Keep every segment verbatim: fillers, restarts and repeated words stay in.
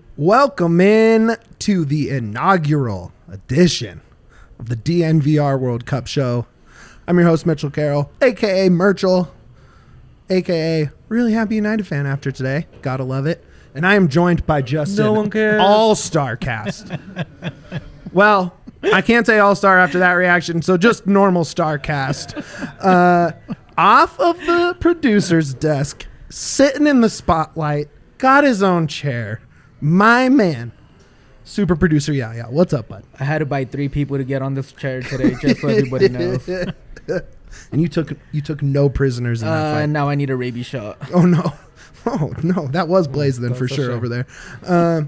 Welcome in to the inaugural edition of the D N V R World Cup show. I'm your host, Mitchell Carroll, a k a. Merchel, a k a really happy United fan after today. Gotta love it. And I am joined by just no an one cares. all-star cast. Well, I can't say all-star after that reaction, so just normal star cast. Uh, off of the producer's desk, sitting in the spotlight, got his own chair. My man, super producer Yaya. What's up, bud? I had to buy three people to get on this chair today, just so everybody knows. And you took you took no prisoners in that Uh, fight. now I need a rabies shot. Oh no, oh no, that was Blaze then for for sure sure. over there. Um,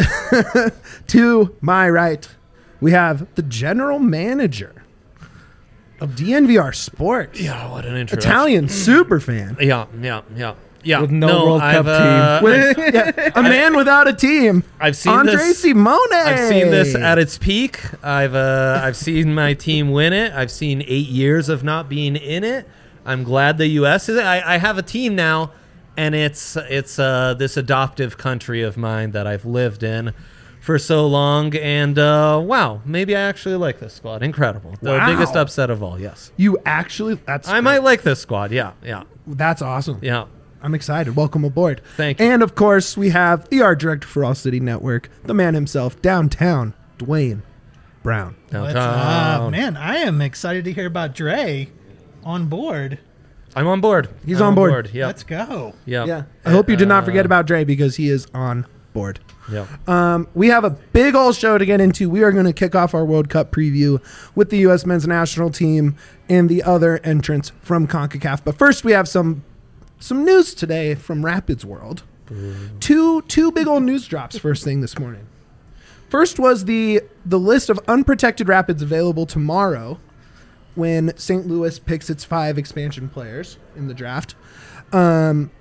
to my right, we have the general manager of D N V R Sports. Yeah, what an introduction. Italian super fan. Yeah, yeah, yeah. Yeah, With no World I've, Cup uh, team. With, yeah, a man without a team. I've seen Andre this. Simone. I've seen this at its peak. I've uh, I've seen my team win it. I've seen eight years of not being in it. I'm glad the U S is. I, I have a team now, and it's it's uh, this adoptive country of mine that I've lived in for so long. And uh, wow, maybe I actually like this squad. Incredible. The Wow. biggest upset of all. Yes, You actually, that's I great. might like this squad. Yeah, yeah, That's awesome. yeah. I'm excited. Welcome aboard. Thank you. And of course, we have the art director for All City Network, the man himself, downtown, Dwayne Brown. What's Downtown. up? Man, I am excited to hear about Dre on board. I'm on board. He's I'm on board. Yeah, Let's go. yeah, Yeah. I hope you did not forget Uh, about Dre because he is on board. Yeah. Um, we have a big old show to get into. We are going to kick off our World Cup preview with the U S men's national team and the other entrants from CONCACAF. But first, we have some some news today from Rapids World. Two two big old news drops first thing this morning. First was the the list of unprotected Rapids available tomorrow when Saint Louis picks its five expansion players in the draft. Um,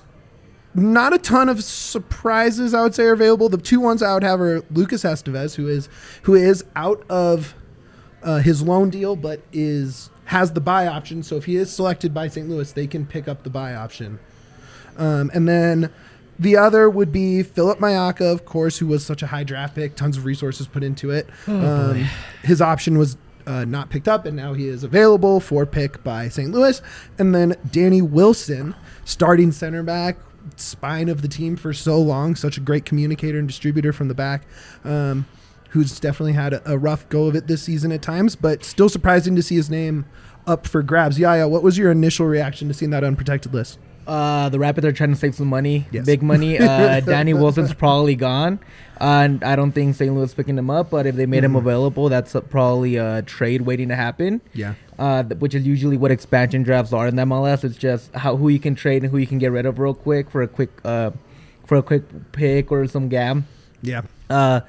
not a ton of surprises, I would say, are available. The two ones I would have are Lucas Estevez, who is who is out of uh, his loan deal, but is has the buy option. So if he is selected by Saint Louis, they can pick up the buy option. Um, and then the other would be Philip Mayaka, of course, who was such a high draft pick, tons of resources put into it. Oh, um, his option was uh, not picked up, and now he is available for pick by Saint Louis. And then Danny Wilson, starting center back, spine of the team for so long, such a great communicator and distributor from the back, um, who's definitely had a, a rough go of it this season at times, but still surprising to see his name up for grabs. Yaya, what was your initial reaction to seeing that unprotected list? Uh, the Rapids are trying to save some money, Yes. big money. Uh, Danny Wilson's probably gone, uh, and I don't think Saint Louis is picking him up. But if they made him available, that's uh, probably a trade waiting to happen. Yeah. Uh, th- which is usually what expansion drafts are in the M L S. It's just how who you can trade and who you can get rid of real quick for a quick uh, for a quick pick or some gam. Yeah. Uh,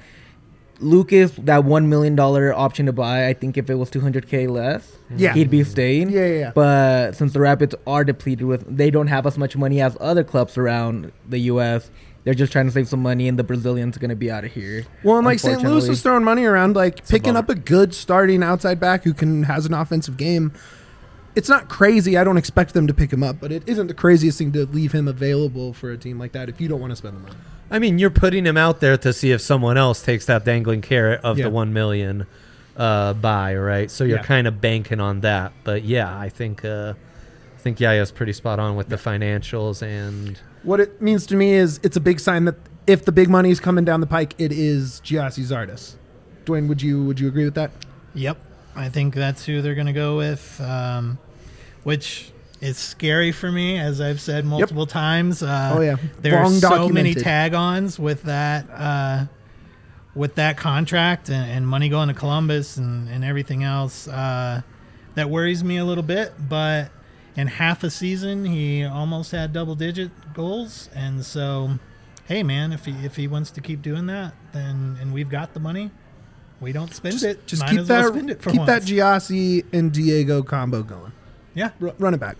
Lucas, that one million dollar option to buy, I think if it was two hundred k less, Yeah. he'd be staying. Yeah, yeah, yeah. But since the Rapids are depleted with, they don't have as much money as other clubs around the U S. They're just trying to save some money, and the Brazilian's going to be out of here. Well, and like Saint Louis unfortunately. is throwing money around, like picking bummer. up a good starting outside back who can has an offensive game. It's not crazy. I don't expect them to pick him up, but it isn't the craziest thing to leave him available for a team like that if you don't want to spend the money. I mean, you're putting him out there to see if someone else takes that dangling carrot of Yeah. the one million uh, buy, right? So you're Yeah. kind of banking on that. But yeah, I think uh, I think Yaya's pretty spot on with the financials and What it means to me is it's a big sign that if the big money is coming down the pike, it is Giassi Zardes. Dwayne, would you would you agree with that? Yep. I think that's who they're going to go with, um, which is scary for me, as I've said multiple times. Uh, Oh, yeah. There are Long so many documented. tag-ons with that uh, with that contract and, and money going to Columbus and, and everything else. Uh, that worries me a little bit, but in half a season, he almost had double-digit goals. And so, hey, man, if he, if he wants to keep doing that, then and we've got the money, we don't spend Just, it. just Might keep as well that spend it for keep that once. Giassi and Diego combo going. Yeah. R- run it back.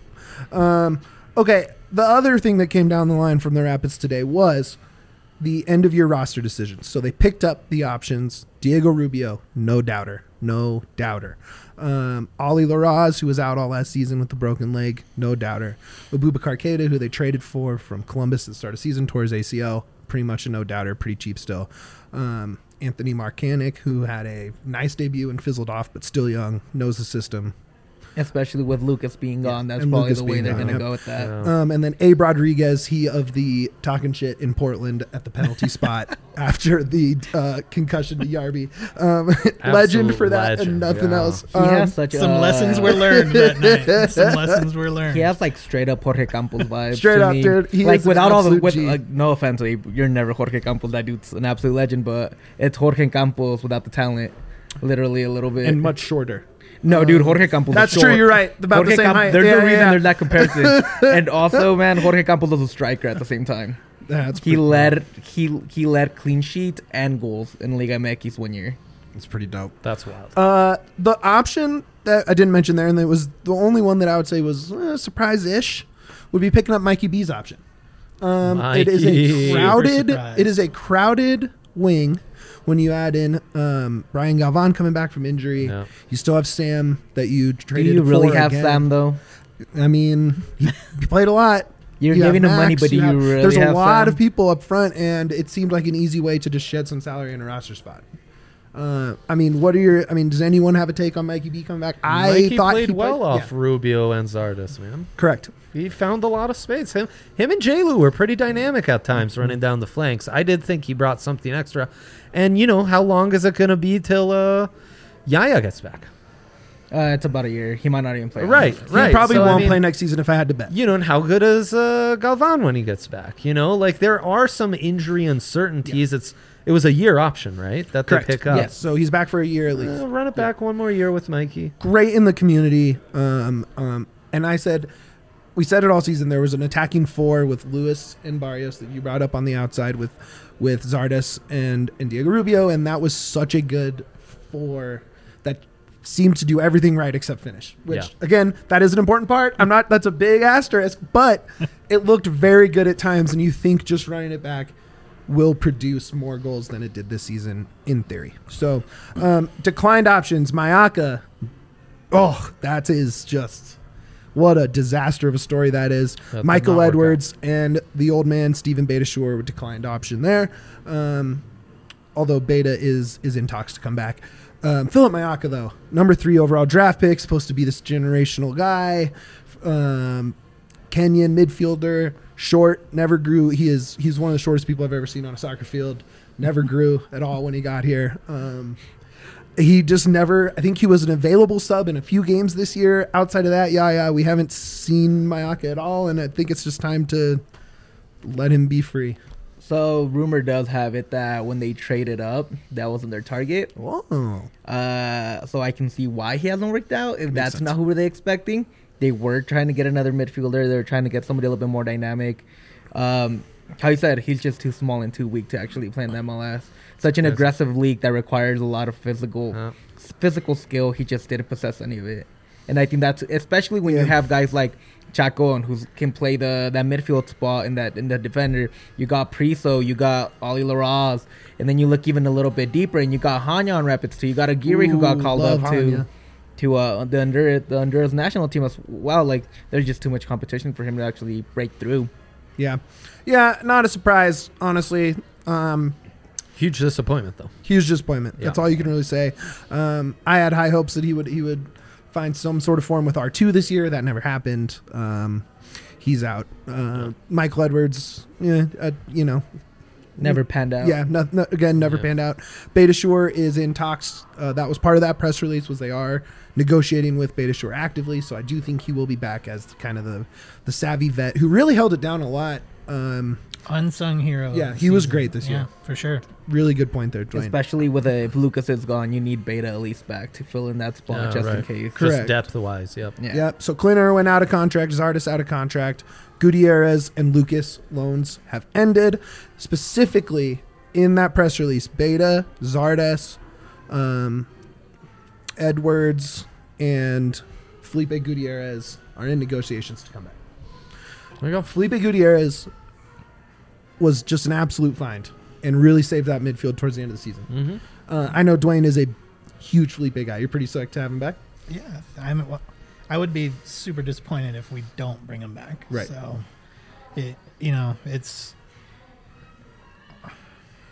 Um, okay, the other thing that came down the line from the Rapids today was the end of year roster decisions. So they picked up the options. Diego Rubio, no doubter, no doubter. Um, Ollie Laraz, who was out all last season with the broken leg, no doubter. Abubakar Keita, who they traded for from Columbus at the start of season, tore his A C L, pretty much a no-doubter, pretty cheap still. Um, Anthony Marcanic, who had a nice debut and fizzled off, but still young, knows the system. Especially with Lucas being gone, that's and probably Lucas the way being they're gone, going to yep. go with that. Yeah. Um, and then Abe Rodriguez, he of the talking shit in Portland at the penalty spot after the uh, concussion to Yarby. Um, legend for that legend, and nothing yeah. else. He Um, has such Some a, lessons were learned that night. Some lessons were learned. He has like straight up Jorge Campos vibes. Straight to up, me. dude. He like is an without all the absolute with, G. like, no offense, Abe, you're never Jorge Campos. That dude's an absolute legend, but it's Jorge Campos without the talent, literally a little bit. and much shorter. No, dude, Jorge Campos. That's is true. short. You're right. About Jorge the same Camp- height. There's Yeah, a reason yeah. there's that comparison. And also, man, Jorge Campos was a striker at the same time. That's He pretty, led he he led clean sheets and goals in Liga M X one year. That's pretty dope. That's wild. Uh, the option that I didn't mention there, and it was the only one that I would say was uh, surprise-ish, would be picking up Mikey B's option. Um, it is Mikey. a crowded. Super It is a crowded wing. When you add in um, Brian Galvan coming back from injury, Yeah. you still have Sam that you Do traded. you really for have again. Sam though? I mean, he, he played a lot. You're You have giving him money, Max, but do you have- really There's a have lot Sam? of people up front, and it seemed like an easy way to just shed some salary in a roster spot. Uh, I mean, what are your? I mean, does anyone have a take on Mikey B coming back? I Mikey thought played he well played, off yeah, Rubio and Zardes, man. correct. He found a lot of space. Him, him and J. Lou were pretty dynamic at times, running down the flanks. I did think he brought something extra. And you know, how long is it going to be till uh, Yaya gets back? Uh, it's about a year. He might not even play. Right, honestly. He right. probably So, I won't mean, play next season if I had to bet. You know, and how good is uh, Galvan when he gets back? You know, like there are some injury uncertainties. It's it was a year option, right? That Correct. they pick up. Yes. So he's back for a year at least. Uh, run it back one more year with Mikey. Great in the community. Um, um, and I said, we said it all season. There was an attacking four with Lewis and Barrios that you brought up on the outside with with Zardes and, and Diego Rubio, and that was such a good four that seemed to do everything right except finish. Which Yeah. again, that is an important part. I'm not. That's a big asterisk, but it looked very good at times, and you think just running it back will produce more goals than it did this season in theory. So, um, declined options, Mayaka. Oh, that is just what a disaster of a story that is. That did Michael not work Edwards and the old man Stephen Beta Shore were declined option there. Um, although Beta is is in talks to come back. Um, Philip Mayaka though, number three overall draft pick, supposed to be this generational guy. Um, Kenyan midfielder, short, never grew. He is he's one of the shortest people I've ever seen on a soccer field. Never grew at all when he got here. Um, he just never. I think he was an available sub in a few games this year. Outside of that, yeah, yeah, we haven't seen Mayaka at all, and I think it's just time to let him be free. So rumor does have it that when they traded up, that wasn't their target. Whoa. Uh, so I can see why he hasn't worked out. If that's sense. not who were they expecting, they were trying to get another midfielder. They were trying to get somebody a little bit more dynamic. Um, how you said, he's just too small and too weak to actually play in the M L S. Such an Yes. aggressive league that requires a lot of physical, Yeah. physical skill. He just didn't possess any of it. And I think that's especially when Yeah. you have guys like Chacon who can play the that midfield spot in that in the defender. You got Priso, you got Oli Laraz, and then you look even a little bit deeper and you got Hanya on Rapids too. You got Aguirre who got Ooh, called love up to Hanya. to uh, the Honduras the Honduras national team as well. Like there's just too much competition for him to actually break through. Yeah, yeah, not a surprise, honestly. Um, Huge disappointment, though. huge disappointment. That's Yeah. all you can really say. Um, I had high hopes that he would he would find some sort of form with R two this year. That never happened. Um, he's out. Uh, Michael Edwards, yeah, uh, you know, Never panned out. yeah, no, no, again, never Yeah. panned out. Beta Shore is in talks. Uh, that was part of that press release. Was they are negotiating with Beta Shore actively. So I do think he will be back as kind of the the savvy vet who really held it down a lot. Um, Unsung hero. Yeah, of the he was season. great this year. Yeah, for sure. really good point there, Dwayne. Especially with a, if Lucas is gone, you need Beta at least back to fill in that spot Yeah, just in right. case. Correct. Just depth-wise, yep. Yeah. Yep. So Clint Irwin out of contract, Zardes out of contract, Gutierrez and Lucas loans have ended. Specifically in that press release, Beta, Zardes, um, Edwards, and Felipe Gutierrez are in negotiations to come back. There you go. Felipe Gutierrez was just an absolute find and really saved that midfield towards the end of the season. Mm-hmm. Uh, I know Dwayne is a huge Felipe guy. You're pretty psyched to have him back. Yeah, I'm. well, I would be super disappointed if we don't bring him back. Right. So, it you know it's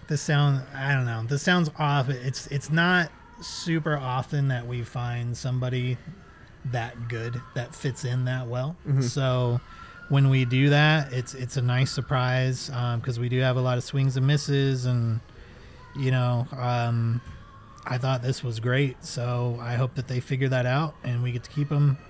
this sound I don't know. This sounds off. It's it's not super often that we find somebody that good that fits in that well. Mm-hmm. So when we do that, it's it's a nice surprise because um, we do have a lot of swings and misses, and you know, um, I thought this was great. So I hope that they figure that out and we get to keep them.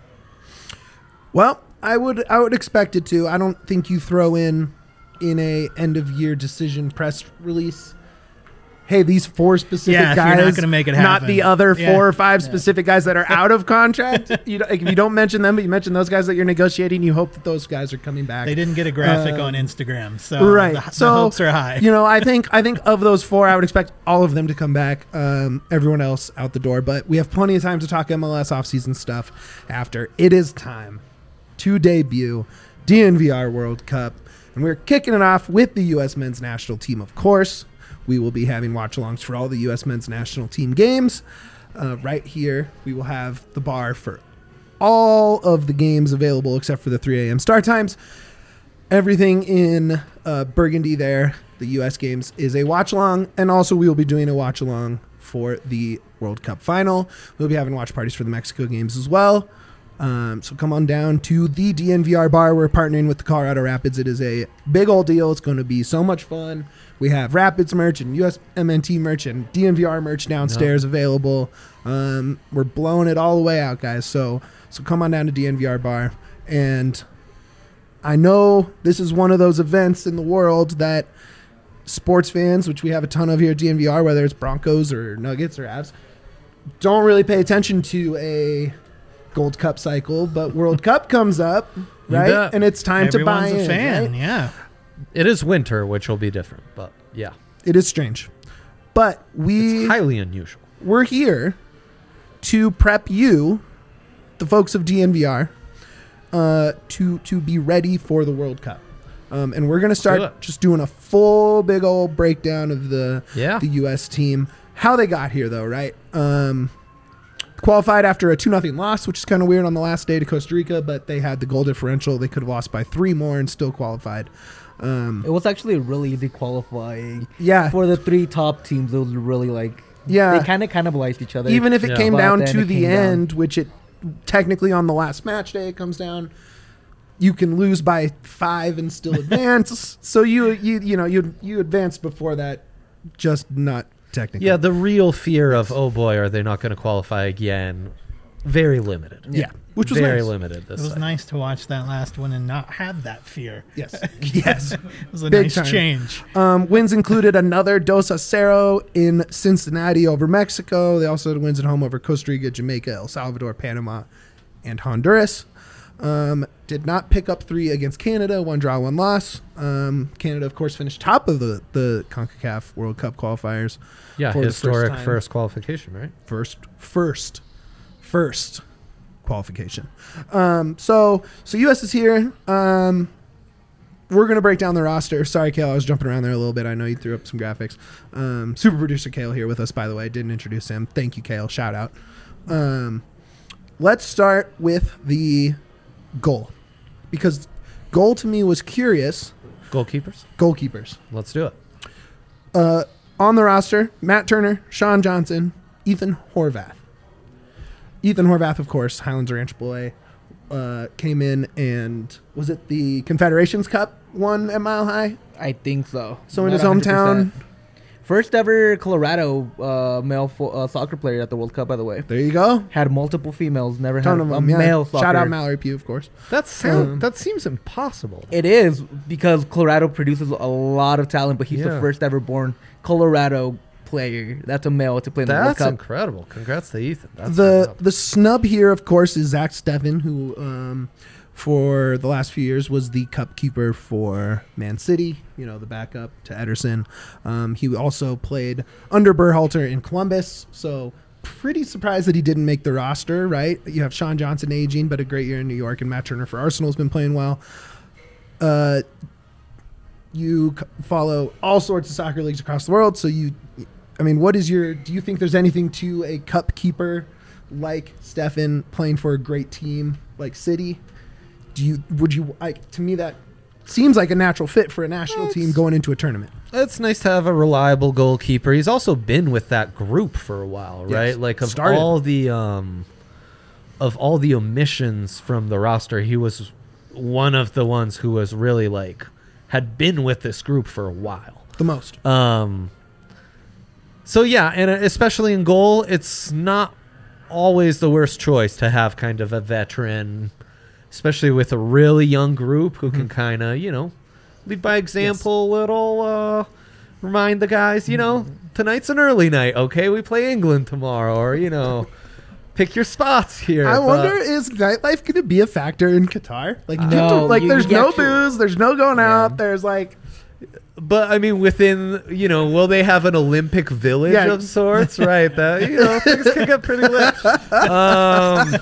Well, I would I would expect it to. I don't think you throw in in a end of year decision press release, hey, these four specific Yeah, if guys, you're not gonna make it not happen. the other Yeah. four or five specific guys that are out of contract. You don't, if you don't mention them, but you mention those guys that you're negotiating, you hope that those guys are coming back. They didn't get a graphic Um, on Instagram, so right. the, so the hopes are high. You know, I think I think of those four, I would expect all of them to come back. Um, everyone else out the door, but we have plenty of time to talk M L S offseason stuff after. It is time to debut D N V R World Cup, and we're kicking it off with the U S men's national team. Of course, we will be having watch-alongs for all the U S men's national team games. Uh, right here, we will have the bar for all of the games available except for the three a.m. start times. Everything in uh, Burgundy there, the U S games, is a watch-along, and also we will be doing a watch-along for the World Cup final. We'll be having watch parties for the Mexico games as well. Um, so come on down to the D N V R bar. We're partnering with the Colorado Rapids. It is a big old deal. It's going to be so much fun. We have Rapids merch and U S M N T merch and D N V R merch downstairs available. Um, we're blowing it all the way out, guys. So so come on down to D N V R bar. And I know this is one of those events in the world that sports fans, which we have a ton of here at D N V R, whether it's Broncos or Nuggets or Avs, don't really pay attention to a Gold Cup cycle, but World Cup comes up, right? bet. And it's time Everyone's to buy a in. fan, right? yeah. It is winter, which will be different, but yeah, It is strange. But we it's highly unusual. we're here to prep you, the folks of D N V R, uh, to to be ready for the World Cup. Um, and we're gonna do start it. just doing a full big old breakdown of the Yeah. the U S team, how they got here though, right? Um, qualified after a two nothing loss, which is kind of weird on the last day to Costa Rica, but they had the goal differential. They could have lost by three more and still qualified. Um, It was actually really easy qualifying. yeah, For the three top teams, it was really like yeah. they kind of cannibalized each other. Even if it Yeah. came But down then to it the came down. end, which it technically on the last match day it comes down, you can lose by five and still advance. So you you you know you you advanced before that, just not technically. Yeah, the real fear of, oh boy, are they not going to qualify again? Very limited. yeah, which was very nice. limited It this was cycle. nice to watch that last one and not have that fear. Yes, yes. It was a Big nice time. change. Um, wins included another Dos a Cero in Cincinnati over Mexico. They also had wins at home over Costa Rica, Jamaica, El Salvador, Panama, and Honduras. Um, did not pick up three against Canada. One draw, one loss. Um, Canada, of course, finished top of the, the CONCACAF World Cup qualifiers. Yeah, for the first historic time. first qualification, right? First, first, first qualification. Um, so, so U S is here. Um, we're going to break down the roster. Sorry, Kale, I was jumping around there a little bit. I know you threw up some graphics. Um, super producer Kale here with us, by the way. Didn't introduce him. Thank you, Kale. Shout out. Um, let's start with the goal, because goal to me was curious. Goalkeepers. Goalkeepers. Let's do it. Uh, on the roster, Matt Turner, Sean Johnson, Ethan Horvath. Ethan Horvath, of course, Highlands Ranch boy, uh, came in and was it the Confederations Cup won at Mile High? I think so. So in Not his hometown. one hundred percent. First ever Colorado uh, male fo- uh, soccer player at the World Cup, by the way. There you go. Had multiple females, never Ton had of a them. Yeah. male soccer. Shout out Mallory Pugh, of course. That sound, Um, that seems impossible. It is because Colorado produces a lot of talent, but he's Yeah. the first ever born Colorado player. That's a male to play in the World That's Cup. incredible. Congrats to Ethan. That's the up. the snub here, of course, is Zach Steffen, who um, for the last few years was the cup keeper for Man City, you know, the backup to Ederson. Um, he also played under Berhalter in Columbus, so pretty surprised that he didn't make the roster, right? You have Sean Johnson aging, but a great year in New York, and Matt Turner for Arsenal has been playing well. Uh, you c- follow all sorts of soccer leagues across the world, so you... I mean, what is your... Do you think there's anything to a cup keeper like Stefan playing for a great team like City? Do you... Would you... Like, to me, that seems like a natural fit for a national team It's- going into a tournament. it's nice to have a reliable goalkeeper. He's also been with that group for a while, right? Yes. Like of Started. all the um, of all the omissions from the roster, he was one of the ones who was really like had been with this group for a while. The most. Um. So yeah, and especially in goal, it's not always the worst choice to have kind of a veteran, especially with a really young group who can kind of, you know, lead by example. A little uh, remind the guys, you know, tonight's an early night. Okay, we play England tomorrow, or you know, pick your spots here. I but- wonder, is nightlife going to be a factor in Qatar? Like, you No, get to- like you- there's you no actually- booze, there's no going Yeah. out, there's like, But I mean, within, you know, will they have an Olympic village Yeah. of sorts? Right. That, you know, things can get pretty lit. Um,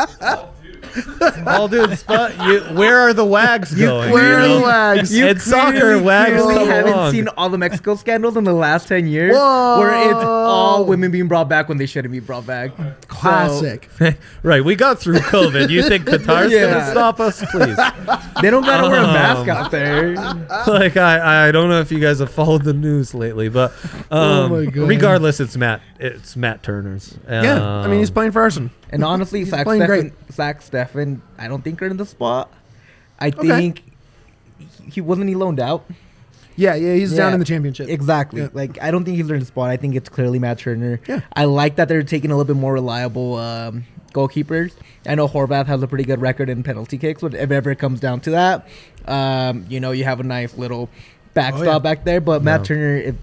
all dudes, but you, where are the wags going? where are you know? the wags? You It's soccer, wags clearly come haven't along. seen all the Mexico scandals in the last ten years, Whoa. where it's all women being brought back when they shouldn't be brought back. Classic. Right, we got through COVID. You think Qatar's Yeah. gonna stop us? Please. So, they don't gotta wear a mask Um, out there. Like I, I don't know if you guys have followed the news lately, but um, Oh my God. regardless, it's Matt. It's Matt Turner's. Yeah, I mean, he's Um, playing for Arsenal. And honestly, He's Zach playing Steffen, Zach Steffen, I don't think are in the spot. I Okay. think he, he wasn't he loaned out. Yeah, yeah, he's down Yeah, in the championship. Exactly. Yeah. Like I don't think he's in the spot. I think it's clearly Matt Turner. Yeah. I like that they're taking a little bit more reliable um, goalkeepers. I know Horvath has a pretty good record in penalty kicks. But if ever it comes down to that, um, you know, you have a nice little backstop Oh, yeah. back there. But Matt Yeah. Turner, if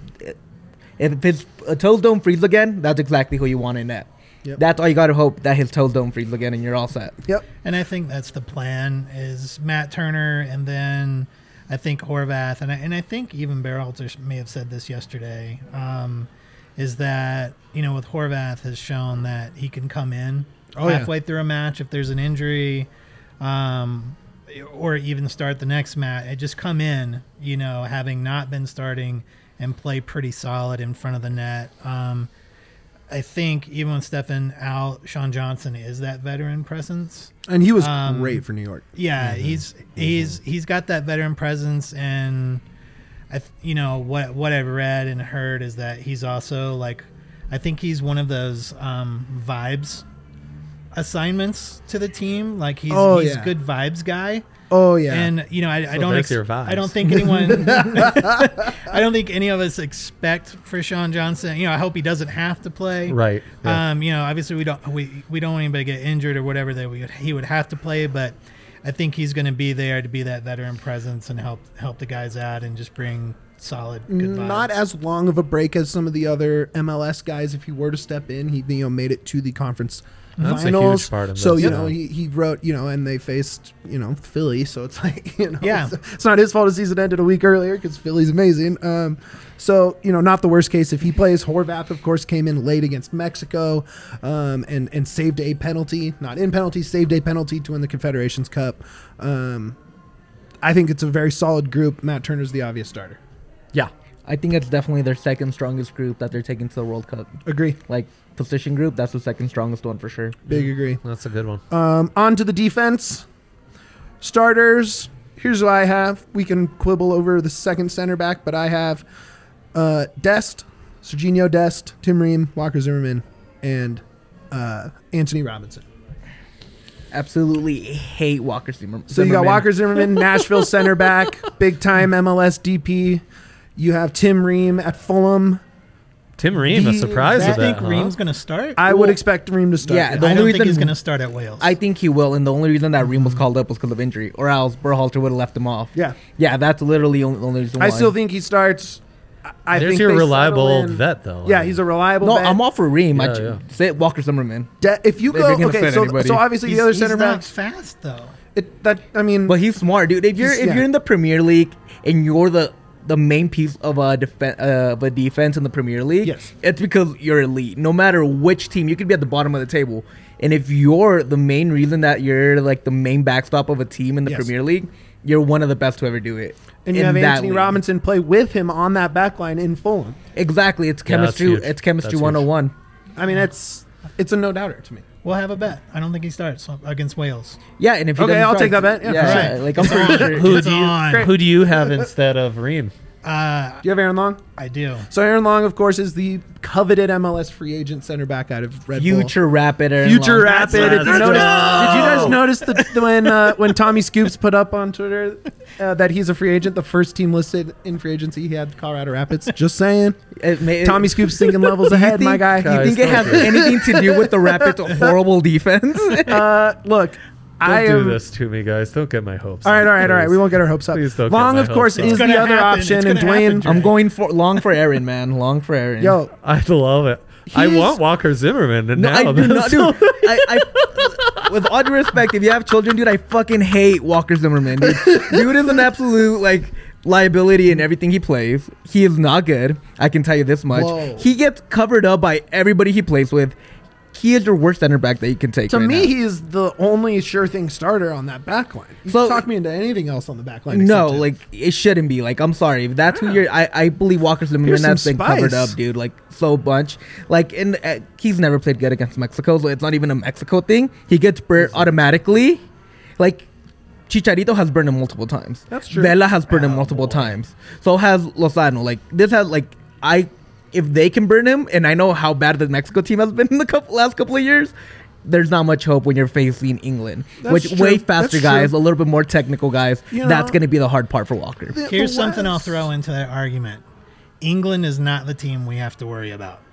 if his uh, toes don't freeze again, that's exactly who you want in net. Yep. That's all you got to hope, that his toes don't freeze again, and you're all set. Yep. And I think that's the plan is Matt Turner, and then I think Horvath, and I, and I think even Berhalter may have said this yesterday, um, is that, you know, with Horvath has shown that he can come in Oh, yeah. halfway through a match if there's an injury, um, or even start the next match. And just come in, you know, having not been starting and play pretty solid in front of the net. Um, I think even with Stefan out, Sean Johnson is that veteran presence. And he was Um, great for New York. Yeah, he's he's he's got that veteran presence, and I th- you know what what I've read and heard is that he's also like, I think he's one of those um, vibes assignments to the team. Like he's Oh, he's yeah. good vibes guy. Oh, yeah. And you know, I, I So don't, that's ex- your vibes. I don't think anyone, I don't think any of us expect for Sean Johnson. You know, I hope he doesn't have to play. right. Yeah. Um, you know, obviously we don't we, we don't want anybody to get injured or whatever that we would, he would have to play, but I think he's going to be there to be that veteran presence and help help the guys out and just bring solid good vibes. Not as long of a break as some of the other M L S guys. If he were to step in, he you know made it to the conference That's a finals. huge part of so this, you yeah. know he, he wrote you know and they faced you know Philly. So it's like you know Yeah. it's, it's not his fault the season ended a week earlier because Philly's amazing. Um, so you know not the worst case if he plays. Horvath of course came in late against Mexico, um, and and saved a penalty, not in penalty, saved a penalty to win the Confederations Cup. Um, I think it's a very solid group. Matt Turner's the obvious starter. yeah. I think it's definitely their second strongest group that they're taking to the World Cup. Agree. Like position group, that's the second strongest one for sure. Big agree. That's a good one. Um, on to the defense. Starters. Here's what I have. We can quibble over the second center back, but I have uh, Dest, Serginho Dest, Tim Ream, Walker Zimmerman, and uh, Anthony Robinson. Absolutely hate Walker Zimmerman. So you got Walker Zimmerman, Nashville center back, big time M L S D P. You have Tim Ream at Fulham. Tim Ream, a The- surprise I of think that, huh? Ream's going to start. I I, would Well, expect Ream to start. yeah, yeah. the don't only think he's reason- going to start at Wales. I think he will, and the only reason that Ream was called up was because of injury, or else Berhalter would have left him off. Yeah. yeah, that's literally the only, the only reason why. I still think he starts. I- I There's think your they reliable settle old in- vet, though. Yeah, he's a reliable no, vet. I'm all for Ream. I Yeah, ju- yeah. say Walker Zimmerman, De- if you If go, you're gonna okay, fit so, anybody. so obviously he's, the other he's center not backs. fast though. It, that I mean, but he's smart, dude. If you're He's- if yeah. you're in the Premier League and you're the the main piece of a defen- uh, of a defense in the Premier League, Yes. it's because you're elite. No matter which team, you could be at the bottom of the table, and if you're the main reason that you're like the main backstop of a team in the Yes. Premier League, you're one of the best to ever do it. and you in have that Anthony league. Robinson play with him on that back line in Fulham. Exactly, it's Yeah, that's chemistry. huge. it's chemistry That's huge. one oh one. I mean, it's it's a no doubter to me. We'll have a bet. I don't think he starts against Wales. Yeah, and if he Okay, doesn't I'll start- take that bet. Yeah, Yeah, for yeah, sure. like I'm It's pretty on. sure. Who It's do you on. who do you have instead of Ream? Uh, Do you have Aaron Long? I do. So Aaron Long, of course, is the coveted M L S free agent center back out of Red Bull. Future Rapid. Aaron Future Long. Rapid. That's- If you that's noticed, right. did you guys notice the, the- when uh, when Tommy Scoops put up on Twitter uh, that he's a free agent? The first team listed in free agency, he had Colorado Rapids. Just saying. It may- Tommy Scoops thinking levels Do you ahead, my think- guy. Do you Guys, think it has don't do it. anything to do with the Rapids' horrible defense? Uh, look, Don't I do am. this to me, guys. Don't get my hopes. All right, up, all right, all right. please. We won't get our hopes up. Please don't get Long, my of course, hopes up. is It's the gonna other happen. option, It's and gonna Dwayne. happen, Dre. I'm going for long for Aaron, man. Long for Aaron. Yo, I love it. I He's- want Walker Zimmerman to No, now. I do not, dude. I, I, with all due respect, if you have children, dude, I fucking hate Walker Zimmerman. Dude, dude is an absolute like liability in everything he plays. He is not good. I can tell you this much. Whoa. He gets covered up by everybody he plays with. He is your worst center back that you can take. to right me, now. he is the only sure thing starter on that back line. You So- can talk me into anything else on the back line. No, except him. like it shouldn't be. Like I'm sorry, if that's who you're. I, I believe Walker Zimmerman Here's some has been covered spice. up, dude. Like so much. Like and uh, he's never played good against Mexico, so it's not even a Mexico thing. He gets burnt automatically. Like Chicharito has burned him multiple times. That's true. Vela has burned him Oh, multiple boy. times. So has Lozano. Like this has like I. If they can burn him, and I know how bad the Mexico team has been in the couple, last couple of years, there's not much hope when you're facing England, That's which true. way faster That's guys, true. a little bit more technical guys. You That's know- going to be the hard part for Walker. The- Here's the something I'll West- throw into that argument. England is not the team we have to worry about.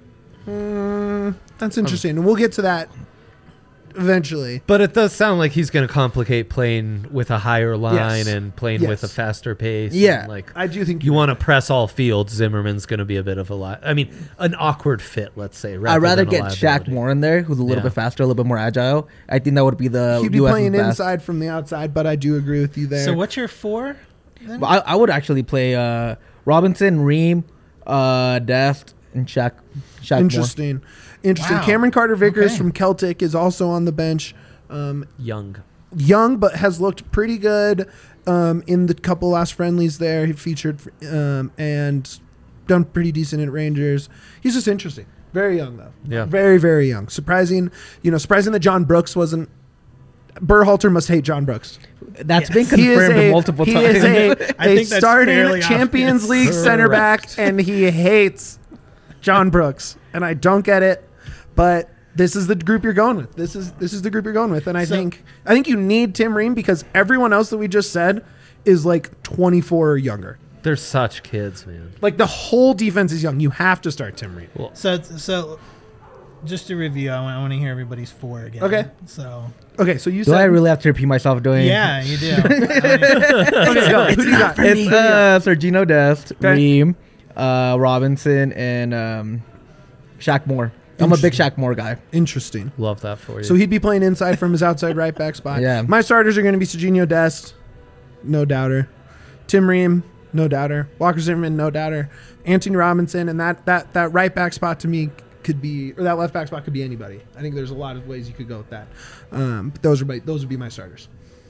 Mm, that's interesting, and we'll get to that eventually. But it does sound like he's going to complicate playing with a higher line Yes. and playing Yes. with a faster pace. Yeah. and, like I do think you want to press all fields. Zimmerman's going to be a bit of a li- I mean, an awkward fit. Let's say. I'd rather than a get Shaq liability. Moore in there, who's a little Yeah. bit faster, a little bit more agile. I think that would be the he'd be U S's playing best. inside from the outside, but I do agree with you there. So what's your four? Then? But I, I would actually play uh, Robinson, Ream, uh, Dest, and Shaq. Shaq Moore. Interesting, interesting. Wow. Cameron Carter Vickers Okay. from Celtic is also on the bench. Um, Young. young, but has looked pretty good um, in the couple last friendlies there. He featured um, and done pretty decent at Rangers. He's just interesting. Very young though. Yeah. Very very young. Surprising. You know, surprising that John Brooks wasn't. Berhalter must hate John Brooks. That's been He is confirmed a, multiple he times. is a, I a think that's starting fairly Champions obvious. League center back, and he hates John Brooks, and I don't get it. But this is the group you're going with. This is this is the group you're going with, and I So- think I think you need Tim Ream because everyone else that we just said is like twenty-four or younger. They're such kids, man. Like the whole defense is young. You have to start Tim Ream. So so just to review, I want, I want to hear everybody's four again. Okay. So Okay, so you Do said I really have to repeat myself doing? yeah, you do. I mean, Okay, go. Who do you got? It's uh, Sergino Dest, Okay. Ream, uh, Robinson, and um, Shaq Moore. I'm a big Shaq Moore guy. Interesting. Love that for you. So he'd be playing inside from his outside right back spot. Yeah. My starters are going to be Serginho Dest, no doubter. Tim Ream, no doubter. Walker Zimmerman, no doubter. Anthony Robinson, and that that that right back spot to me could be, or that left back spot could be anybody. I think there's a lot of ways you could go with that. Um, but those are my, those would be my starters.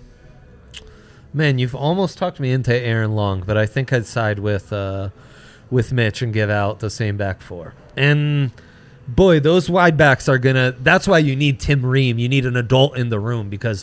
Man, you've almost talked me into Aaron Long, but I think I'd side with uh, with Mitch and give out the same back four. And boy, those wide backs are gonna. That's why you need Tim Ream. You need an adult in the room because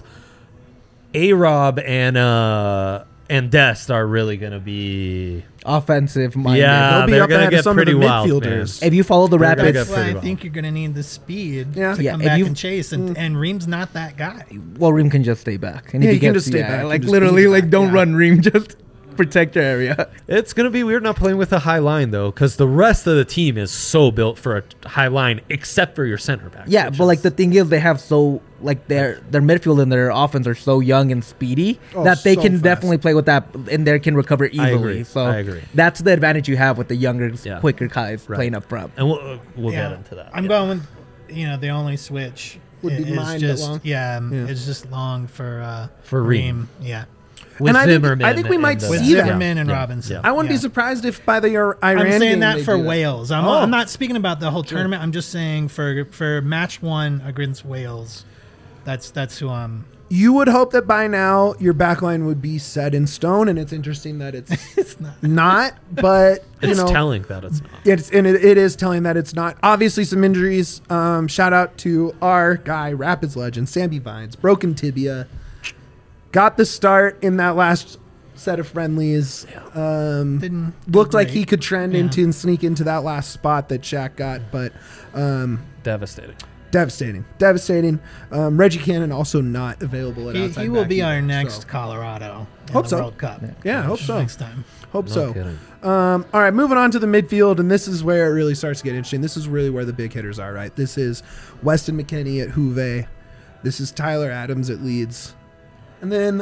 A-Rob and uh, and Dest are really gonna be. Offensive minded. Yeah, They'll be they're up gonna ahead of get some of pretty the wild, midfielders. man. If you follow the They're gonna Rapids, get that's why pretty I well. think you're going to need the speed Yeah. to Yeah, come if back you- and chase, and, and Ream's not that guy. well, Ream can just stay back. And Yeah, if he can gets- just stay yeah, back and Like just literally, be like back, don't yeah. run Ream. Just protect your area. It's gonna be weird not playing with a high line though, because the rest of the team is so built for a high line, except for your center back. Yeah, which but like is- the thing is, they have so like their their midfield and their offense are so young and speedy Oh, that they so can fast. definitely play with that and they can recover easily. agree. So I agree. that's the advantage you have with the younger, Yeah. quicker guys Right. playing up front. and we'll uh, we'll Yeah. get into that. I'm yeah. going with, you know, the only switch Would be is mine, but just Long. yeah, um, Yeah. it's just long for uh, For Ream. Yeah, with And I think- Zimmerman. I think we and might the- with see that. Zimmerman and Yeah. Robinson. Yeah. I wouldn't Yeah. be surprised if by the Iran I'm saying game that they for do Wales. I'm, Oh. I'm not speaking about the whole tournament. I'm just saying for for match one against Wales. That's that's who I'm. You would hope that by now your backline would be set in stone, and it's interesting that it's It's not. not. But you It's know, telling that it's not. it's and it, it is telling that it's not. Obviously, some injuries. Um, shout out to our guy, Rapids legend Sammy Vines, broken tibia. Got the start in that last set of friendlies. Um, Didn't looked do like great. he could trend Yeah. into and sneak into, trend Didn't into and sneak into that last great. spot that Shaq Yeah. got, but um, Devastating. devastating, devastating. Um, Reggie Cannon also not available at He, outside he will back be either, our next so. Colorado in Hope the so. World Cup. Yeah, hope so. Next time. Hope No so. kidding. Um, all right, moving on to the midfield, and this is where it really starts to get interesting. This is really where the big hitters are, right? This is Weston McKennie at Juve. This is Tyler Adams at Leeds. And then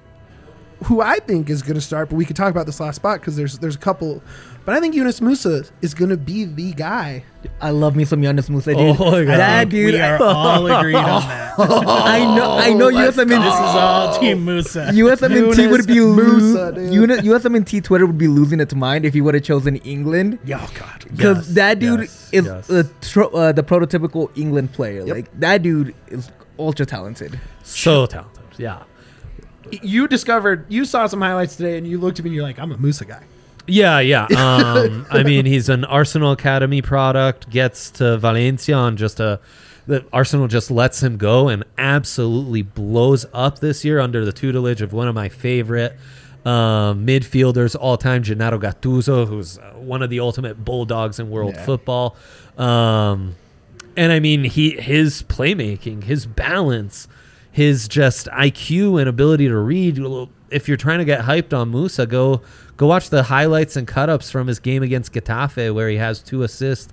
who I think is going to start, but we could talk about this last spot because there's there's a couple. But I think Yunus Musa is going to be the guy. I love me some Yunus Musa, dude. Oh my God. That dude. We are all agreed on that. I know. I know. let's U S M N. This is all Team Musa. U S M N T would be Musa, losing. dude. U S M N T Twitter would be losing its mind if he would have chosen England. Yeah, oh God. Because Yes, that dude yes, is yes. the tro- uh, the prototypical England player. Yep. Like that dude is ultra talented. So talented. Yeah. You discovered, you saw some highlights today, and you looked at me and you're like, I'm a Musa guy. Yeah, yeah. Um, I mean, he's an Arsenal Academy product, gets to Valencia on just a. The Arsenal just lets him go and absolutely blows up this year under the tutelage of one of my favorite um, midfielders all time, Gennaro Gattuso, who's uh, one of the ultimate bulldogs in world Yeah. football. Um, and I mean, he his playmaking, his balance, his just I Q and ability to read. If you're trying to get hyped on Musa, go go watch the highlights and cut-ups from his game against Getafe where he has two assists.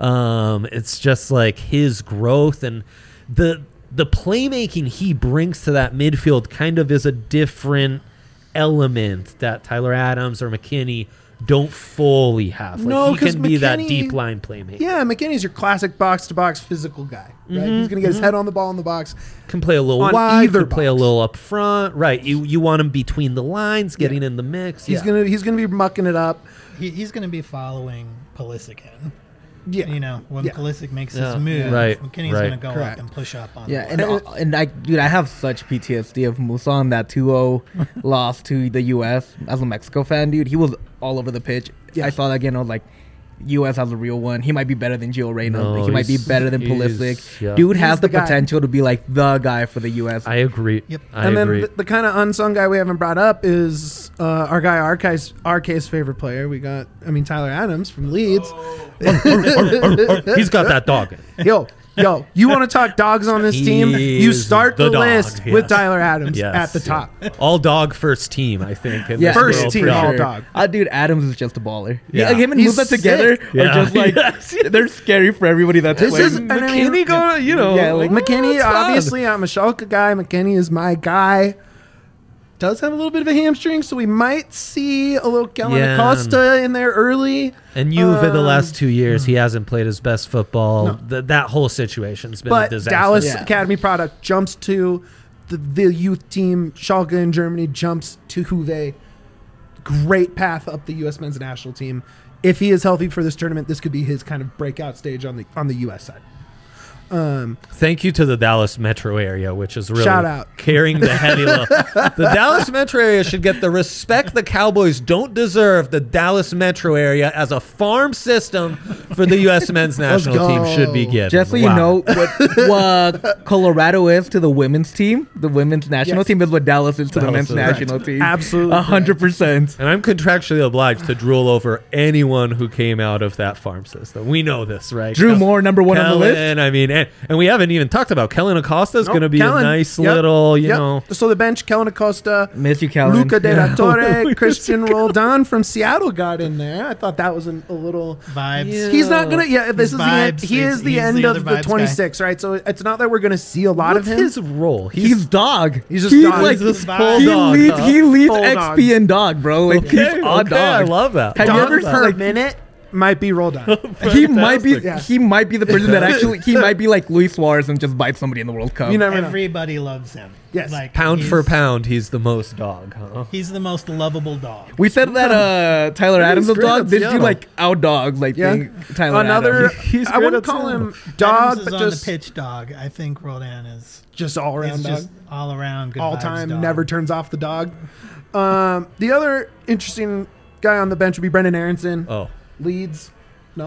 Um, it's just like his growth and the the playmaking he brings to that midfield kind of is a different element that Tyler Adams or McKinney don't fully have. Like No, he 'cause can be that McKinney- deep line playmaker. Yeah, McKinney's your classic box-to-box physical guy. Right? Mm-hmm, He's going to get his head on the ball in the box. Can play a little On wide, either can play a box. little up front. Right. You you want him between the lines, getting Yeah. in the mix. He's yeah. gonna he's gonna be mucking it up. He, he's going to be following Pulisic in. Yeah, You know, when Yeah. Pulisic makes Yeah. his move, Right, McKinney's right. going to go Correct. up and push up on Yeah, the and ball. uh, and I dude, I have such P T S D of Musa on that two oh loss to the U S as a Mexico fan, dude. He was all over the pitch. Yeah. I saw that again. I was like, U S has a real one. He might be better than Gio Reyna. No, he might be he's- better than he's- Pulisic. yeah. Dude He's has the the, guy. potential to be like the guy for the U S. I agree. Yep. I and agree. then the, the kind of unsung guy we haven't brought up is uh, our guy R K's R K's favorite player. We got, I mean, Tyler Adams from Leeds. He's got that dog. Yo, yo, you want to talk dogs on this team? He You is start the, the dog, list yes. with Tyler Adams Yes, at the yeah. top. All dog first team, I think. in Yeah, this First World team, Cup. all dog. Uh, dude, Adams is just a baller. Yeah. Yeah, like him and He's Musa together sick. are Yeah. just like Yes. they're scary for everybody that's This playing. is- and I mean- McKinney go, you know. Yeah, like, McKinney, it's fun. obviously, I'm a Schalke guy. McKinney is my guy. Does have a little bit of a hamstring, so we might see a little Kellen Yeah. Acosta in there early. And Juve the Um, last two years, he hasn't played his best football. Th- that whole situation's been a But disaster. Dallas Yeah. Academy product jumps to the, the youth team. Schalke in Germany jumps to Juve. Great path up the U S men's national team. If he is healthy for this tournament, this could be his kind of breakout stage on the on the U S side. Um, Thank you to the Dallas metro area, which is really Shout out. carrying the heavy load. The Dallas metro area should get the respect the Cowboys don't deserve. The Dallas metro area as a farm system for the U S men's national go. team should be given. Just so you Wow. know what, what Colorado is to the women's team, the women's national Yes. team is what Dallas is to the Dallas men's is. national Correct. team. Absolutely A hundred percent. And I'm contractually obliged to drool over anyone who came out of that farm system. We know this, right? Drew Kel- Moore, number one on the list. Kellen, I mean, and, and we haven't even talked about Kellen Acosta is Nope, going to be Kellen. a nice Yep, little, you yep. know. So the bench: Kellen Acosta, Miss you, Kellen. Luca De La Yeah. Torre, Christian Roldan from Seattle got in there. I thought that was an, a little. Vibes. Yeah. He's not gonna. Yeah, this His is the end. vibes, He he's- is the he's end the of other the vibes guy. twenty-six, right? So it's not that we're gonna see a lot What's of him. his role? He's dog. He's just he, dog. Like, He's just full he dog, leads. huh? He leads Full X dog. P and dog, bro. Like Okay, he's a okay, I dog. love that. Have you Dog ever for like, a minute might be rolled on. he might be Yeah. he might be the person that actually he might be like Luis Suarez and just bite somebody in the World Cup. You never know. Everybody loves him. Yes. Like, Pound he's- for pound, he's the most dog, huh? He's the most lovable dog. We said that uh, Tyler Adams was great dog. at This Seattle. dude like out dogs like Yeah. being Tyler Another. Adams. He's I good wouldn't at call Seattle. him dog, Adams is but on just the pitch dog. I think Rodan is just all around is dog. just all around good All vibes time, dog. never turns off the dog. Um, the other interesting guy on the bench would be Brendan Aronson. Oh, Leeds. No.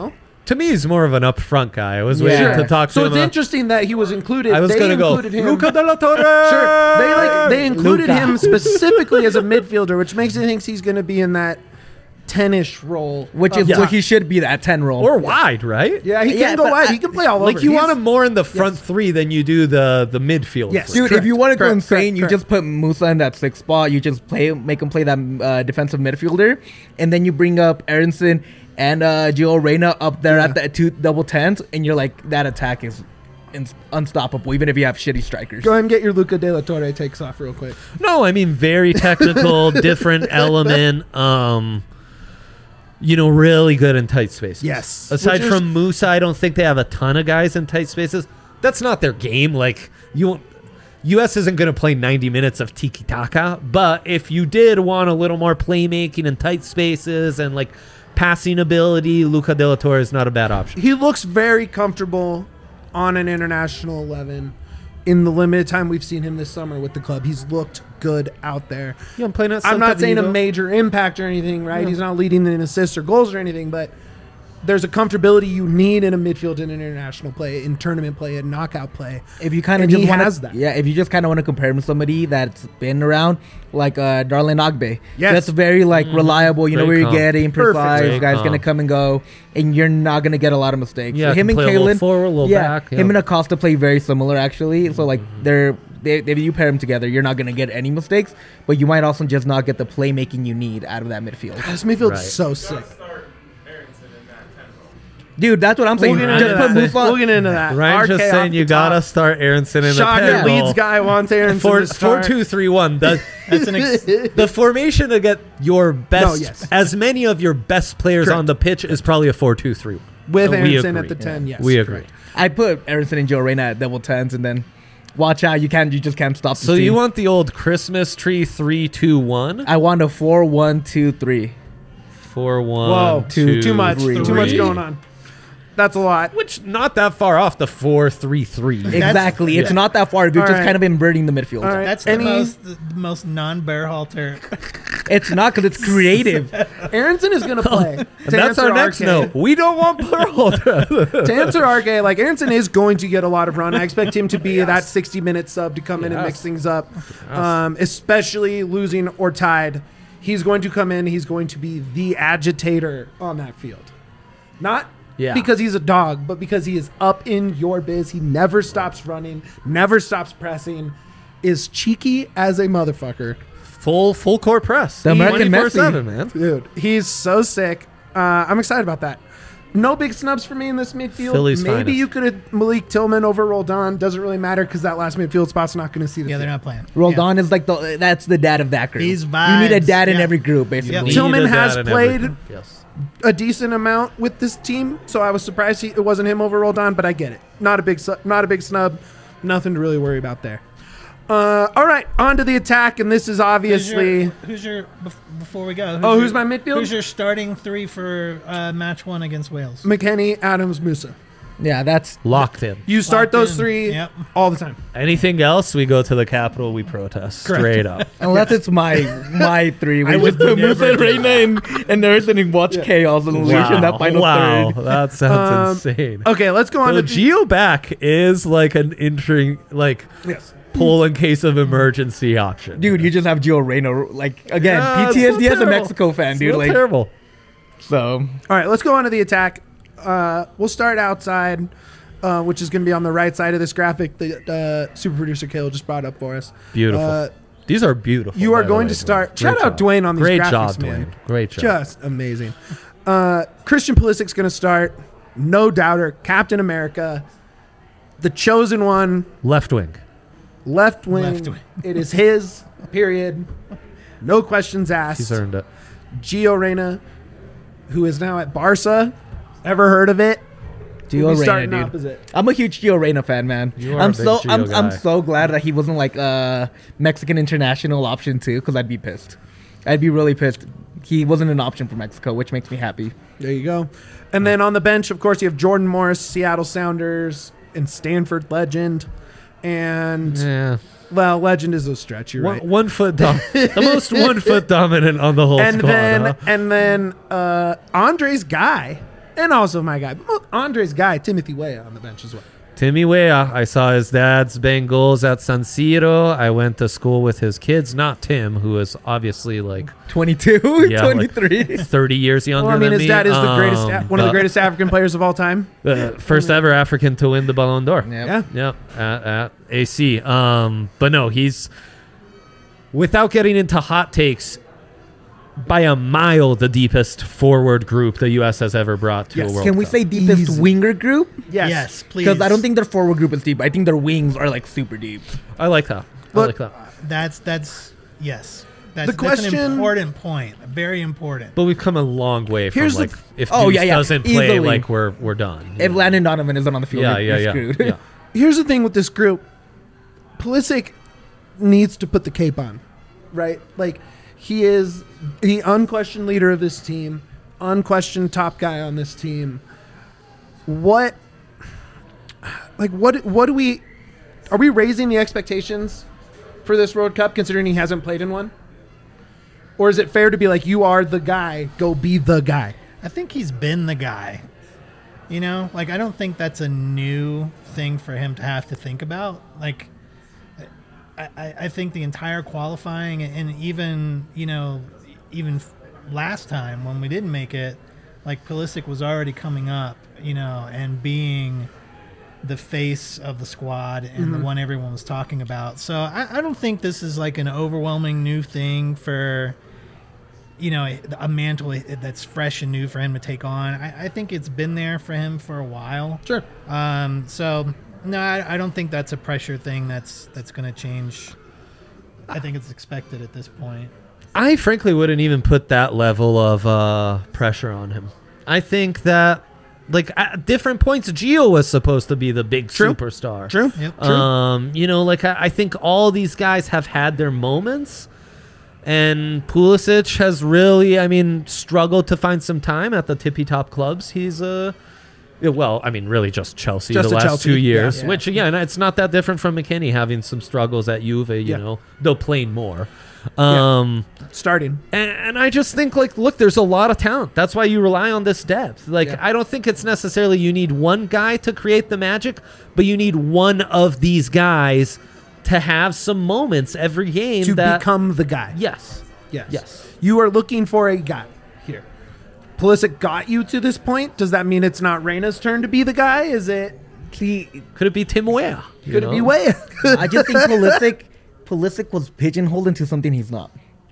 To me, he's more of an upfront guy. I was Yeah. waiting Sure. to talk to So him. it's about- interesting that he was included. I was they going to go, included him. Luca de la Torre! Sure. They like they included Luka. him specifically as a midfielder, which makes me think he's going to be in that ten-ish role, Which of is top. what he should be, that ten role. Or wide, right? Yeah, he can Yeah, go but wide. I- he can play all over. Like, you He's- want him more in the front Yes. three than you do the, the midfield. Yes. three. Dude, Correct, if you want to go correct, insane, correct, you correct. just put Musa in that sixth spot. You just play, make him play that uh, defensive midfielder, and then you bring up Aronson and uh, Gio Reyna up there Yeah. at the two double tens, and you're like, that attack is in- unstoppable, even if you have shitty strikers. Go ahead and get your Luca de la Torre takes off real quick. No, I mean, very technical, different element. Um, you know, really good in tight spaces. Yes. Aside Which is- from Musa, I don't think they have a ton of guys in tight spaces. That's not their game. Like, you won't. U S isn't going to play ninety minutes of tiki taka, but if you did want a little more playmaking in tight spaces and like passing ability, Luca de la Torre is not a bad option. He looks very comfortable on an international eleven. In the limited time we've seen him this summer with the club, he's looked good out there. Yeah, I'm playing at I'm not Celta saying a Vigo. major impact or anything, right? Yeah. He's not leading in assists or goals or anything, but there's a comfortability you need in a midfield in international play, in tournament play, in knockout play. If you kind of And just he wanna, has that. yeah. If you just kind of want to compare him to somebody that's been around, like uh, Darlene Ogbe, Yes. that's very like reliable. You know Great where you're comp. getting Perfect. precise. Great Guys gonna comp. come and go, and you're not gonna get a lot of mistakes. Yeah, him can and play a little Kalen, forward, a little yeah, back, him yeah. and Acosta play very similar actually. So like they're they, if you pair them together, you're not gonna get any mistakes, but you might also just not get the playmaking you need out of that midfield. This midfield's Right. so sick. Dude, that's what I'm saying. We'll get Just into put that. Musa. We'll get into that. Ryan's just R K saying off you the gotta top. start Aronson in Shocker, the pen. Leeds guy wants Aronson Four, to four, start. two, three, one. The, That's an ex- the formation to get your best, No, yes. as many of your best players Correct. on the pitch is probably a four two three. With We Aronson at agree. the ten, yes. We agree. correct. I put Aronson and Joe Reyna at double tens, and then watch out. You can't. You just can't stop. So this you team. want the old Christmas tree three two one? I want a four one two three. Four one. Whoa, two, too much. three. Too much going on. That's a lot. Which not that far off the four three three. Exactly. It's yeah. not that far. You're All just right. kind of inverting the midfield. All right. That's Any- the most the most non-Berhalter. It's not because it's creative. Aronson is going to play. And that's our next note. We don't want Berhalter. To answer R K, like Aronson is going to get a lot of run. I expect him to be that sixty minute sub to come in and Yes. mix things up, um, especially losing or tied. He's going to come in. He's going to be the agitator on that field. Not Yeah. because he's a dog, but because he is up in your biz. He never stops running, never stops pressing, is cheeky as a motherfucker. full full court press. The American twenty-four Messi. seven, man. Dude, he's so sick. Uh, I'm excited about that. No big snubs for me in this midfield. Philly's Maybe finest. you could have Malik Tillman over Roldan. Doesn't really matter because that last midfield spot's not going to see the Yeah, they're field. not playing. Roldan is like the that's the dad of that group. He's You need a vibes. dad in Yeah. every group, basically. Yep. Need Tillman a dad has in played- everything. Yes. A decent amount with this team, so I was surprised he, it wasn't him over Roldan, but I get it. Not a big, su- not a big snub. Nothing to really worry about there. Uh, all right, on to the attack, and this is Who's obviously. your, who's your bef- before we go? Oh, your- who's my midfield? Who's your starting three for uh, match one against Wales? McKennie, Adams, Musa. Yeah, that's Locked in. You start Locked those in. three Yep. all the time. Anything else, we go to the Capitol, we protest. Correct. Straight up. unless it's my my three. We I just would put never Musa and do Reyna and, and Aronson and watch chaos and unleash in that final wow. third. That sounds Um, insane. Okay, let's go on The to Geo back is like an entering, like, yes. pull in case of emergency option. Dude, you just have Gio Reyna. Like again, Yeah, it's P T S D so as a terrible. Mexico fan, It's dude. so Like terrible. so. All right, let's go on to the attack. Uh, we'll start outside, uh, which is going to be on the right side of this graphic that uh, super producer Kale just brought up for us. Beautiful. Uh, These are beautiful. you are by the going way, to start. Dwayne. Shout Great out job. Dwayne on these Great graphics, job, man. Dwayne. Great job. Just amazing. Uh, Christian Pulisic's going to start. No doubter. Captain America. The chosen one. Left wing. Left wing. Left wing. It is his. Period. No questions asked. He's earned it. Gio Reyna, who is now at Barca. Ever heard of it? Gio We'll be Reyna, starting dude. opposite. I'm a huge Gio Reyna fan, man. You are I'm a big so Gio I'm, I'm guy. so glad that he wasn't like a Mexican international option too, because I'd be pissed. I'd be really pissed. He wasn't an option for Mexico, which makes me happy. There you go. And then on the bench, of course, you have Jordan Morris, Seattle Sounders, and Stanford legend. And, Yeah. well, legend is a stretch, you're One, right. one foot dom- the most one foot dominant on the whole And squad. then, huh? and then uh, Andre's guy, And also my guy, Andre's guy, Timothy Weah on the bench as well. Timmy Weah. I saw his dad's bang goals at San Siro. I went to school with his kids, not Tim, who is obviously like twenty-two, Yeah, like twenty-three. thirty years younger Well, I mean, than his me. dad is the greatest, Um, one of the but, greatest African players of all time. uh, first ever African to win the Ballon d'Or. Yep. Yeah. Yep, at, at A C. Um, but no, he's without getting into hot takes. By a mile, the deepest forward group the U S has ever brought to Yes. a World Can we Cup. say deepest Easy. winger group? Yes. Yes, please. Because I don't think their forward group is deep. I think their wings are like super deep. I like that. I Look, like that. That's that's yes. That's, The that's an question- important point. Very important. But we've come a long way from Here's the like th- if Oh, Deuce yeah, yeah, doesn't play, easily. like we're we're done. If Yeah. Landon Donovan isn't on the field, yeah, we're, yeah, we're yeah, screwed. yeah. Here's the thing with this group. Pulisic needs to put the cape on, right? Like, he is the unquestioned leader of this team, unquestioned top guy on this team. What, like, what, what do we, are we raising the expectations for this World Cup considering he hasn't played in one? Or is it fair to be like, you are the guy, go be the guy? I think he's been the guy. You know, like I don't think that's a new thing for him to have to think about. Like, I, I, I think the entire qualifying and even you know, even f- last time when we didn't make it, like Pulisic was already coming up, you know, and being the face of the squad and the one everyone was talking about. So I, I don't think this is like an overwhelming new thing for, you know, a, a mantle that's fresh and new for him to take on. I, I think it's been there for him for a while. Sure. Um, so no, I, I don't think that's a pressure thing that's that's going to change. I think it's expected at this point. I frankly wouldn't even put that level of uh, pressure on him. I think that, like, at different points, Gio was supposed to be the big True. superstar. True. Yep. Um, you know, like, I, I think all these guys have had their moments. And Pulisic has really, I mean, struggled to find some time at the tippy-top clubs. He's, uh, yeah, well, I mean, really just Chelsea Just the a last Chelsea, two yeah. years, Yeah. which, again, it's not that different from McKennie having some struggles at Juve, you Yeah. know, though playing more. Um, Starting. and, and I just think, like, look, there's a lot of talent. That's why you rely on this depth. Like, Yeah. I don't think it's necessarily you need one guy to create the magic, but you need one of these guys to have some moments every game To that... become the guy. Yes. Yes. Yes. You are looking for a guy here. Pulisic got you to this point. Does that mean it's not Reyna's turn to be the guy? Is it? See, Could it be Tim Weah? you Could it be know? Weah? I just think Pulisic, Pulisic was pigeonholed into something he's not.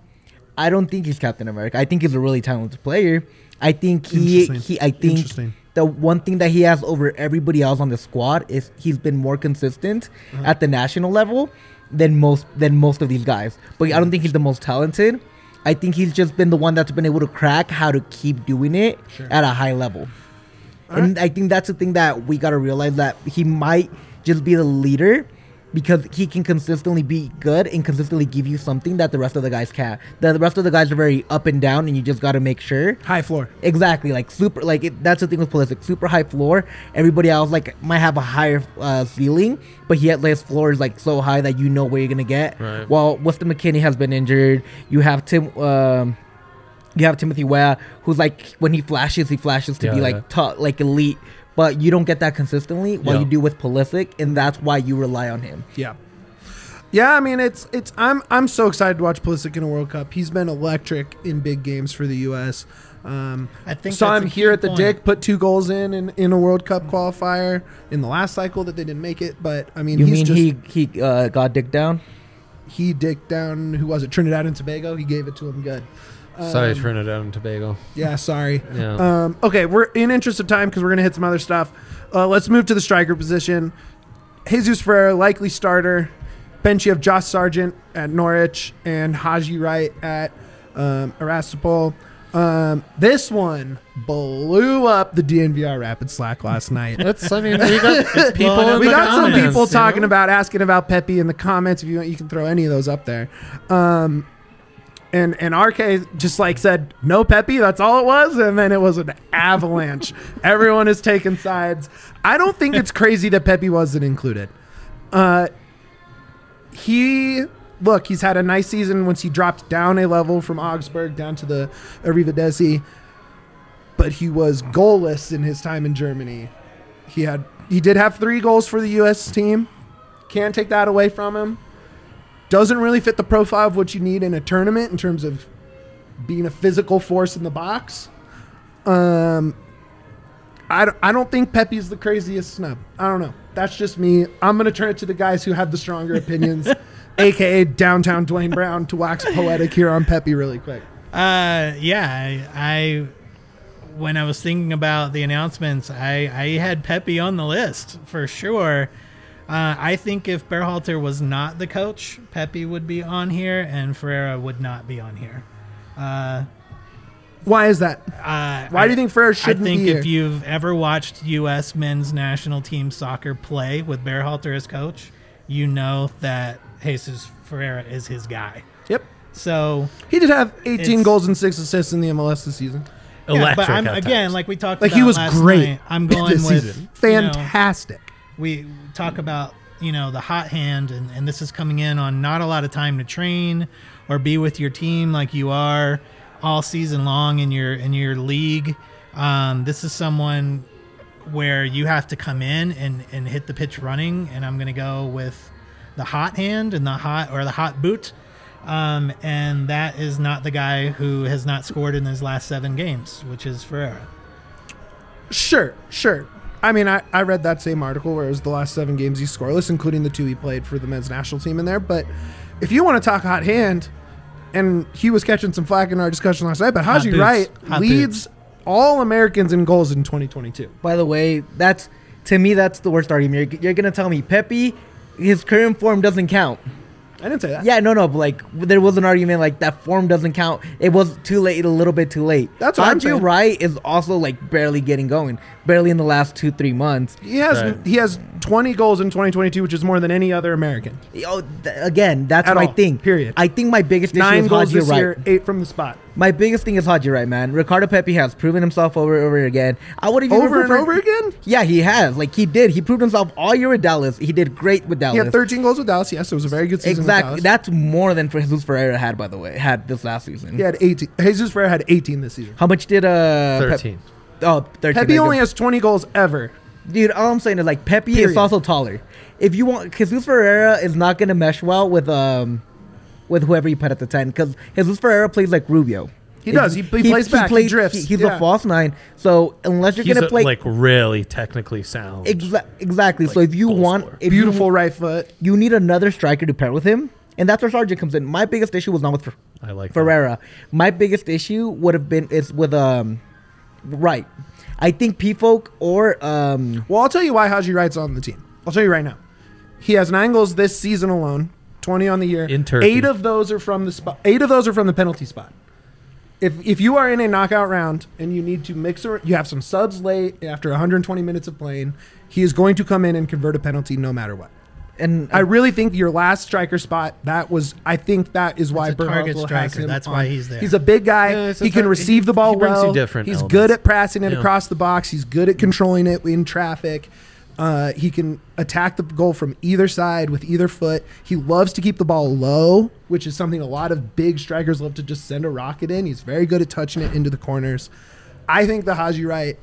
I don't think he's Captain America. I think he's a really talented player. I think he, Interesting. he I think Interesting. the one thing that he has over everybody else on the squad is he's been more consistent Uh-huh. at the national level than most than most of these guys. But I don't think he's the most talented. I think he's just been the one that's been able to crack how to keep doing it Sure. at a high level. And I think that's the thing that we got to realize, that he might just be the leader because he can consistently be good and consistently give you something that the rest of the guys can't. The rest of the guys are very up and down, and you just got to make sure. High floor. Exactly, like super, like it, that's the thing with Pulisic, super high floor. Everybody else like might have a higher uh, ceiling, but he had his floor is like so high that you know where you're gonna get. Right. While Weston McKennie has been injured, you have Tim, um, you have Timothy Weah, who's like when he flashes, he flashes to Yeah, be like yeah. top, like elite, but you don't get that consistently. While Yeah. you do with Pulisic, and that's why you rely on him. Yeah. Yeah, I mean it's it's I'm I'm so excited to watch Pulisic in a World Cup. He's been electric in big games for the U S. Um, I think saw that's him a here key at the point. Dick, put two goals in, in in a World Cup qualifier in the last cycle that they didn't make it. But I mean, You he's mean just he he uh, got dick down? he dicked down. Who was it? Trinidad and Tobago. He gave it to him good. Sorry, Um, Trinidad and Tobago. Yeah, sorry. Yeah. Um, okay, we're in interest of time because we're gonna hit some other stuff. Uh, let's move to the striker position. Jesus Ferreira, likely starter. Bench, you have Josh Sargent at Norwich and Haji Wright at um, Erastapol. Um, this one blew up the D N V R Rapid Slack last night. It's, I mean, we got it's people Well, in We the got some comments, people you talking know? about, asking about Pepe in the comments. If you want, you can throw any of those up there. Um, and and R K just like said, no Pepe, that's all it was. And then it was an avalanche. Everyone is taking sides. I don't think it's crazy that Pepe wasn't included. Uh, he, look, he's had a nice season once he dropped down a level from Augsburg down to the Arrivederci. but he was goalless in his time in Germany. He had he did have three goals for the U S team. Can't take that away from him. Doesn't really fit the profile of what you need in a tournament in terms of being a physical force in the box. Um, I don't, I don't think Pepe's the craziest snub. I don't know. That's just me. I'm going to turn it to the guys who have the stronger opinions, a k a. Downtown Dwayne Brown, to wax poetic here on Pepe really quick. Uh, yeah, I, I when I was thinking about the announcements, I, I had Pepe on the list for sure. Uh, I think if Berhalter was not the coach, Pepe would be on here and Ferreira would not be on here. Uh, Why is that? uh, Why I, do you think Ferreira shouldn't I think be if here? you've ever watched U S men's national team soccer play with Berhalter as coach, you know that Jesus Ferreira is his guy. Yep. So He did have eighteen It's- goals and six assists in the M L S this season. yeah, Electric but I'm, at again, times. like we talked Like about he was last great night, I'm going this with season. you know, Fantastic. we talk about, you know, the hot hand, and, and this is coming in on not a lot of time to train or be with your team like you are all season long in your in your league. Um, this is someone where you have to come in and, and hit the pitch running, and I'm going to go with the hot hand and the hot or the hot boot. Um, and that is not the guy who has not scored in his last seven games, which is Ferreira. Sure, sure. I mean, I, I read that same article where it was the last seven games he's scoreless, including the two he played for the men's national team in there. But if you want to talk hot hand, and he was catching some flack in our discussion last night, but Hot Haji boots. Wright Hot leads all Americans in goals in twenty twenty-two. By the way, that's to me that's the worst argument. You're, you're gonna tell me Pepe, his current form doesn't count. I didn't say that. Yeah, no, no, but like there was an argument like that form doesn't count. It was too late, a little bit too late. That's what I'm Haji saying. Wright is also like barely getting going, barely in the last two three months. He has Right. he has twenty goals in twenty twenty-two, which is more than any other American. Oh, th- again, that's At my all, thing. period. I think my biggest issue Nine is goals Haji this Wright. year, eight from the spot. My biggest thing is Haji Wright, man. Ricardo Pepe has proven himself over and over again. I would have even Over and preferred- over again? Yeah, he has. Like he did. He proved himself all year with Dallas. He did great with Dallas. He had thirteen goals with Dallas. Yes, it was a very good season Exactly. with Dallas. That's more than Jesus Ferreira had, by the way. Had this last season. He had eighteen. Jesus Ferreira had eighteen this season. How much did uh Pep- thirteen. oh, thirteen. Pepe there you only go. has twenty goals ever. Dude, all I'm saying is like Pepe Period. is also taller. If you want, Jesus Ferreira is not gonna mesh well with um with whoever you put at the ten because Jesus Ferreira plays like Rubio. He does. He- he plays back. He drifts. he- he's Yeah. a false nine. So unless you're He's gonna a, play like really technically sound. exa- exactly. so like, if you goal want, scorer. if you- Beautiful right foot. you need another striker to pair with him, and that's where Sargent comes in. My biggest issue was not with Fer- I like that. Ferreira. My biggest issue would have been is with um, Wright. I think P Folk or um, Well, I'll tell you why Haji Wright's on the team. I'll tell you right now. He has nine goals this season alone, twenty on the year. In Turkey. Eight of those are from the spot. Eight of those are from the penalty spot. If if you are in a knockout round and you need to mix or you have some subs late after one hundred twenty minutes of playing, he is going to come in and convert a penalty no matter what. and I really think your last striker spot, that was, I think that is why a target Berhalter has striker. him That's on. why he's there. He's a big guy. Yeah, it's a he can tar- receive the ball he brings you well. different He's elements. good at passing it Yeah. across the box. He's good at controlling it in traffic. Uh, he can attack the goal from either side with either foot. He loves to keep the ball low, which is something a lot of big strikers love to just send a rocket in. He's very good at touching it into the corners. I think the Haji Wright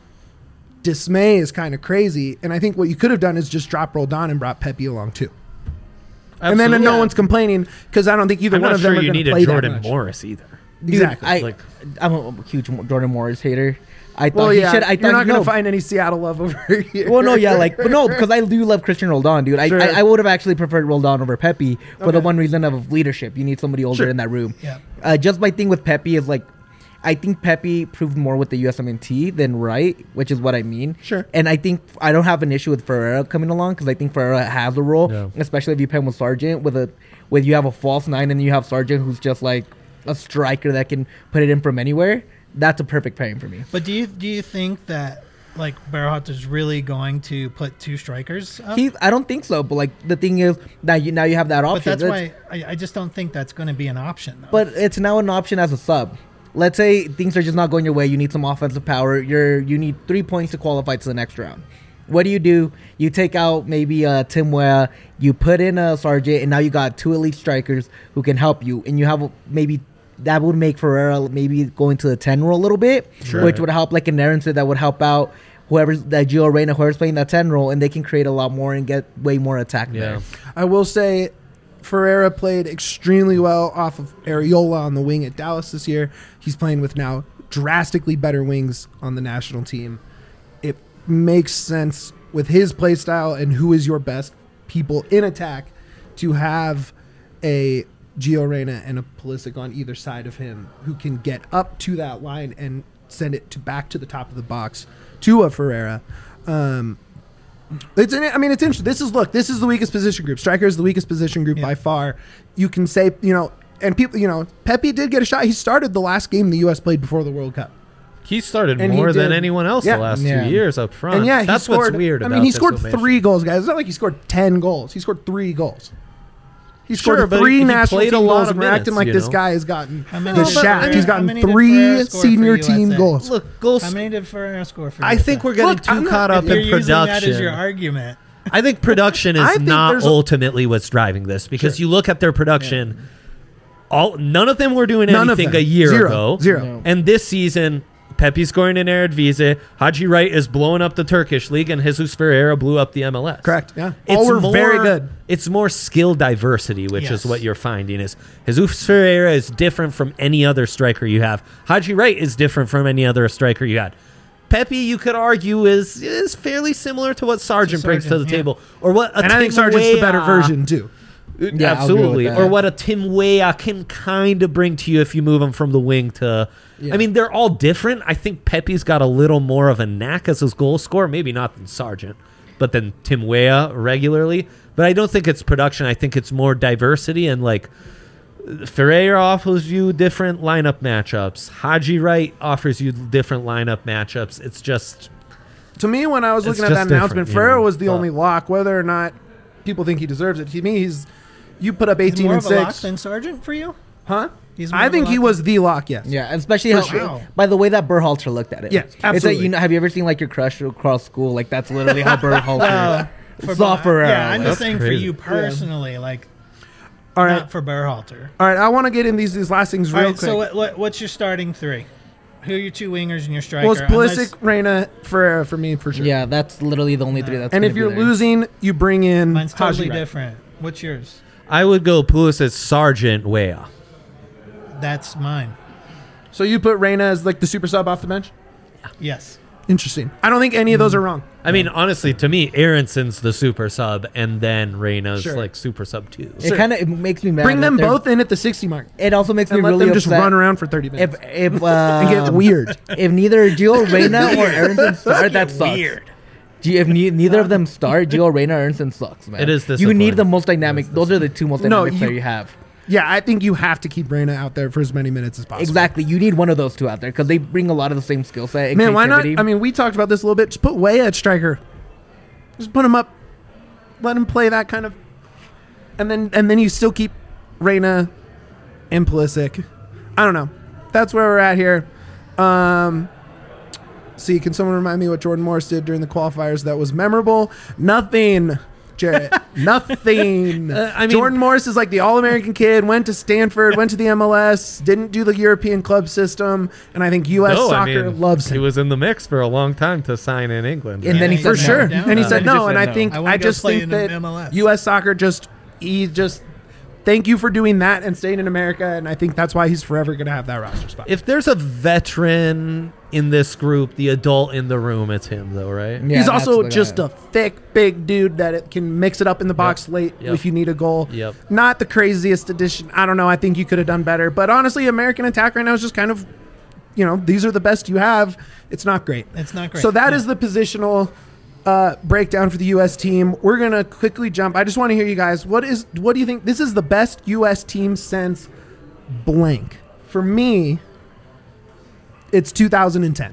dismay is kind of crazy, and I think what you could have done is just drop Roldan and brought Pepe along too. And then Absolutely. no one's complaining because I don't think either I'm one not of them sure are you going need to a play that Jordan much. Morris either. dude, Exactly. I, Like- I'm a huge Jordan Morris hater. I thought Well, he yeah, should. I you're thought not going no. to find any Seattle love over here. Well, no, yeah, like, but no, because I do love Christian Roldan, dude. I, Sure. I, I would have actually preferred Roldan over Pepe for the Okay. one reason of leadership. You need somebody older Sure. in that room. Yeah. Uh, just my thing with Pepe is like, I think Pepe proved more with the U S M N T than Wright, which is what I mean. Sure. And I think I don't have an issue with Ferreira coming along because I think Ferreira has a role, No. especially if you pair him with Sargent. With a, with you have a false nine and you have Sargent who's just like a striker that can put it in from anywhere. That's a perfect pairing for me. But do you do you think that like Berhalter's really going to put two strikers up? He, I don't think so. But like the thing is, now you now you have that but option. that's That's- why I, I just don't think that's going to be an option. Though. But it's now an option as a sub. Let's say things are just not going your way. You need some offensive power. You're you need three points to qualify to the next round. What do you do? You take out maybe uh, Tim Weah. You put in a Sargent, and now you got two elite strikers who can help you. And you have maybe that would make Ferreira maybe go into the ten role a little bit, Sure. which would help, like an Aaron said, that would help out whoever's that Gio Reyna, whoever's playing that ten role, and they can create a lot more and get way more attack Yeah. there. I will say Ferreira played extremely well off of Areola on the wing at Dallas this year. He's playing with now drastically better wings on the national team. It makes sense with his play style and who is your best people in attack to have a Gio Reyna and a Pulisic on either side of him who can get up to that line and send it to back to the top of the box to a Ferreira. Um, It's. I mean, it's interesting. This is look. This is the weakest position group. Striker is the weakest position group Yeah. by far. You can say, you know, and people, you know, Pepe did get a shot. He started the last game the U S played before the World Cup, He started And he more than did. anyone else Yeah. the last Yeah. two years up front. and yeah, he that's scored. what's weird. I about mean, he this scored formation. three goals, guys. It's not like he scored ten goals. He scored three goals. He Sure, scored but three he national played team a lot goals, of and we're acting minutes, like you this know? guy has gotten How many the did- shaft. how He's many- gotten how many did three Ferreira score for senior U S A? team goals. Look, goals. How many did Ferreira score for? I U S A? think we're getting Look, too I'm not- caught up You're in using that as your production. argument. I think production I is think not there's a- ultimately what's driving this because Sure. you look at their production. All none of them were doing None of anything them. a year Zero. ago. Zero. No. And this season, Pepe's scoring in Eredivisie. Haji Wright is blowing up the Turkish league, and Jesus Ferreira blew up the M L S. Correct. Yeah. It's All were more, very good. It's more skill diversity, which Yes. is what you're finding. Is Jesus Ferreira is different from any other striker you have. Haji Wright is different from any other striker you had. Pepe, you could argue, is is fairly similar to what Sargent brings to the Sargent, yeah. table, or what. A And I think Tim Sargent's the better Weah- version too. Yeah, I'll agree Absolutely, with that. or what a Tim Weah can kind of bring to you if you move him from the wing to. Yeah. I mean, they're all different. I think Pepe's got a little more of a knack as his goal scorer, maybe not than Sargent, but than Tim Weah regularly. But I don't think it's production. I think it's more diversity and like Ferreira offers you different lineup matchups. Haji Wright offers you different lineup matchups. It's just To me, when I was It's looking at that just announcement, different, you Ferreira know, was the but- only lock. Whether or not people think he deserves it, to me, he's you put up He's eighteen more and of a lock six, than Sergeant for you. huh? He's more I of a think he lock was the lock. Yes. Yeah, especially For how, sure. by the way that Berhalter looked at it. Yes, It's absolutely. like, you know, have you ever seen like your crush across school? Like that's literally how Berhalter For saw Ber- Ferreira. Yeah, I'm Like, just saying for crazy. you personally, like All right. not for Berhalter. All right. I want to get in these these last things All real right, quick. so what, what, what's your starting three? Who are your two wingers and your striker? well, it's Unless- Pulisic, Reyna, Ferreira for me for sure. yeah, that's literally the only three that's. And gonna if be you're there. losing, you bring in Mine's totally Haji Wright. different. What's yours? I would go Pulisic, Sargent, Weah. That's mine. So you put Reyna as like the super sub off the bench. Yes. Interesting. I don't think any of those are wrong. I mean, honestly, to me, Aronson's the super sub, and then Reyna's Sure. like super sub two. it kind of it makes me mad. Bring that them they're- both in at the sixty mark It also makes me and let really them just upset run around for thirty minutes if if uh, and get weird. if neither Gio Reyna or Aronson start, that sucks. Weird. G- If ne- neither of them start, Gio Reyna or Aronson sucks, man. It is You disappointing. need the most dynamic. Those are the two most No, dynamic you- players you have. Yeah, I think you have to keep Reyna out there for as many minutes as possible. Exactly. You need one of those two out there because they bring a lot of the same skill set. And Man, why not? creativity. I mean, we talked about this a little bit. Just put Weah at striker. Just put him up. Let him play that kind of, and then and then you still keep Reyna and Pulisic. I don't know. That's where we're at here. Um, see, can someone remind me what Jordan Morris did during the qualifiers that was memorable? Nothing. Jarrett. Nothing. Uh, I mean- Jordan Morris is like the all-American kid, went to Stanford, went to the M L S, didn't do the European club system, and I think U S No, I soccer mean, loves He him. was in the mix for a long time to sign in England. And right? then he For said sure. no. And he Uh, said he no, just and said I no. think I wanna I go just play think in the that M L S. U S soccer just he just thank you for doing that and staying in America, and I think that's why he's forever going to have that roster spot. If there's a veteran in this group, the adult in the room, it's him, though, right? Yeah, he's that's also the just guy. a thick, big dude that it can mix it up in the box late Yep. if you need a goal. Yep. Not the craziest addition. I don't know. I think you could have done better. But honestly, American attack right now is just kind of, you know, these are the best you have. It's not great. It's not great. So that No. is the positional uh, breakdown for the U S team. We're gonna quickly jump. I just want to hear you guys. What is? What do you think? This is the best U S team since blank. For me, it's two thousand ten.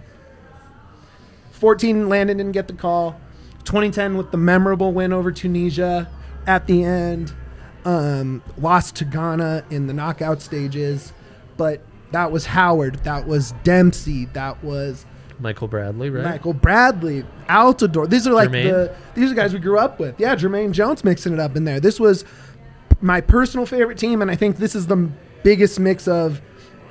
fourteen, Landon didn't get the call. twenty ten with the memorable win over Tunisia at the end. Um, lost to Ghana in the knockout stages, but that was Howard. That was Dempsey. That was Michael Bradley, right? Michael Bradley, Altidore. These are like Jermaine? the these are guys we grew up with. Yeah, Jermaine Jones mixing it up in there. This was my personal favorite team, and I think this is the biggest mix of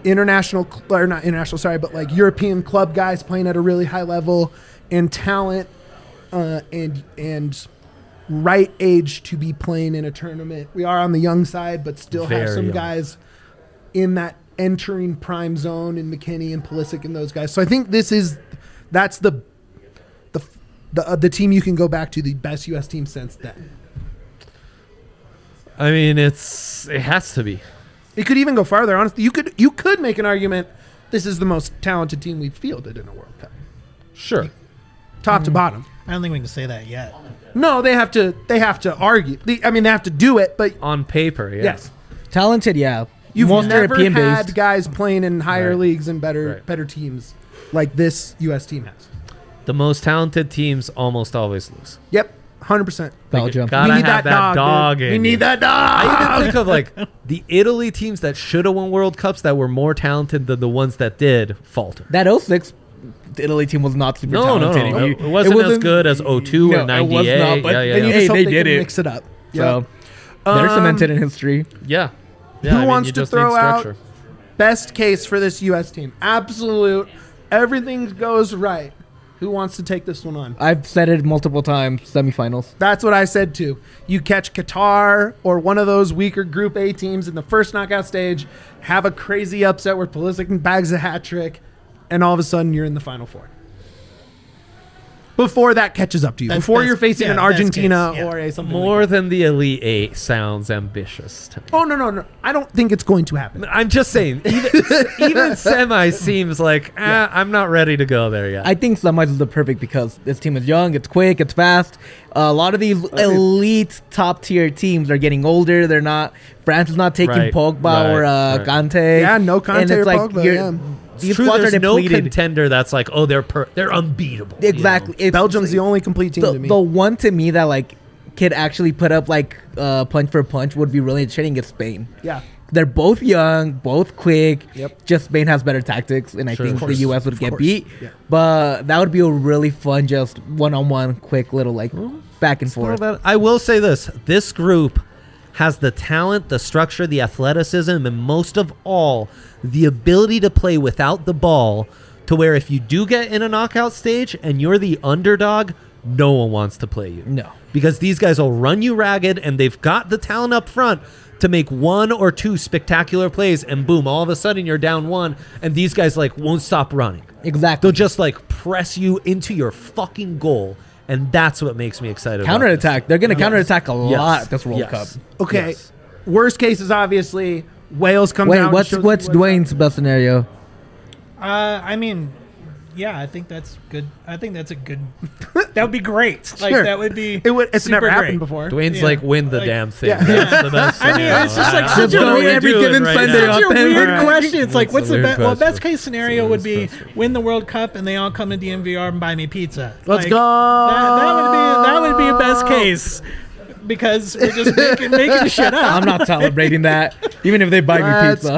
international cl- or not international, sorry, but like European club guys playing at a really high level and talent uh, and and right age to be playing in a tournament. We are on the young side, but still have Very some young. guys in that entering prime zone in McKinney and Pulisic and those guys. So I think this is that's the the the, uh, the team you can go back to, the best U S team since then. I mean, it's it has to be. It could even go farther. Honestly, you could you could make an argument this is the most talented team we've fielded in a World Cup, Sure. top to bottom. I don't think we can say that yet. No, they have to they have to argue. The, I mean, they have to do it, but On paper, yeah. yes, Talented, yeah. you've Most never European had based. guys playing in higher Right. leagues and better Right. better teams like this U S team has. The most talented teams almost always lose. Yep, one hundred percent. Belgium. Gotta we need have that, that dog. dog dude. in We you. need that I dog. even think of like the Italy teams that should have won World Cups that were more talented than the ones that did falter. That oh six Italy team was not super No, no, talented. no. You- It wasn't, as good as oh two No, or it was ninety-eight. not, but yeah, yeah, And you yeah. Hey, just hope they they, did can it. mix it up. So Yep. they're Um, cemented in history. yeah. Yeah, Who I mean, wants you to just throw need out structure. best case for this U S team? Absolute. Everything goes right. Who wants to take this one on? I've said it multiple times. Semifinals. That's what I said too. You catch Qatar or one of those weaker Group A teams in the first knockout stage, have a crazy upset where Pulisic bags a hat trick, and all of a sudden you're in the Final Four. Before that catches up to you. That's Before best- you're facing yeah, an best Argentina case, yeah. or a something More like than the Elite Eight sounds ambitious to me. that. Oh, no, no, no. I don't think it's going to happen. I'm just saying, even, even semi seems like, eh, I'm not ready to go there yet. I think semis is the perfect because this team is young, it's quick, it's fast. Uh, a lot of these elite top tier teams are getting older. They're not. France is not taking Right, Pogba right, or uh, right. Kante. Yeah, no Kante And or it's like Pogba, you're- yeah. It's These true, squads are there's no depleted. contender that's like, oh, they're per- they're unbeatable. you know? Exactly. It's Belgium's the like- only complete team the, to me. the one to me that like could actually put up like uh, punch for punch would be really interesting is Spain. yeah. They're both young, both quick. Yep. Just Spain has better tactics, and I Sure. think Of the course. U S would Of get course. beat. Yeah. But that would be a really fun, just one-on-one, quick little like back and Well, forth. that- I will say this: this group has the talent, the structure, the athleticism, and most of all, the ability to play without the ball. To where if you do get in a knockout stage and you're the underdog, no one wants to play you. No. Because these guys will run you ragged, and they've got the talent up front to make one or two spectacular plays, and boom, all of a sudden you're down one, and these guys like won't stop running. Exactly. They'll just like press you into your fucking goal, and that's what makes me excited. about Counterattack. They're going to Yes. counterattack a Yes. lot at this World Yes. Cup. Okay. Yes. Worst case is obviously Wales comes Wait, out. and what's shows what's you Dwayne's best scenario? Uh, I mean, yeah, I think that's good. I think that's a good. That would be great. Like Sure. that would be. It would. It's super never happened great. before. Dwayne's Yeah. like, win the Like- damn thing. Yeah. That's the best. I mean, scenario. it's just like I- such I a don't know what weird- we're every doing given right Sunday now. on Such a them. weird Right. question. It's like, It's what's a the weird best? Well, question. best case scenario It's a would weird be question. win the World Cup and they all come to D M V R and buy me pizza. Let's Like, go. That, that would be that would be a best case because we're just making making shit up. I'm not celebrating that, even if they buy me Let's pizza.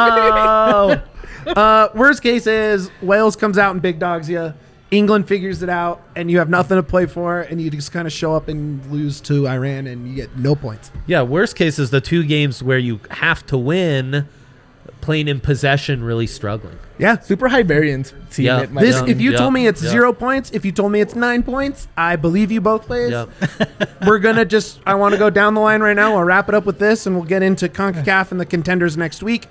go. Uh, worst case is Wales comes out and big dogs you. England figures it out, and you have nothing to play for, and you just kind of show up and lose to Iran, and you get no points. Yeah, worst case is the two games where you have to win, playing in possession, really struggling. Yeah. Super high variance team. Yeah. It might This, Yeah. be. if you Yeah. told me it's Yeah. zero points, if you told me it's nine points, I believe you both ways. Yep. We're gonna just. I want to go down the line right now. We'll wrap it up with this, and we'll get into CONCACAF and the contenders next week.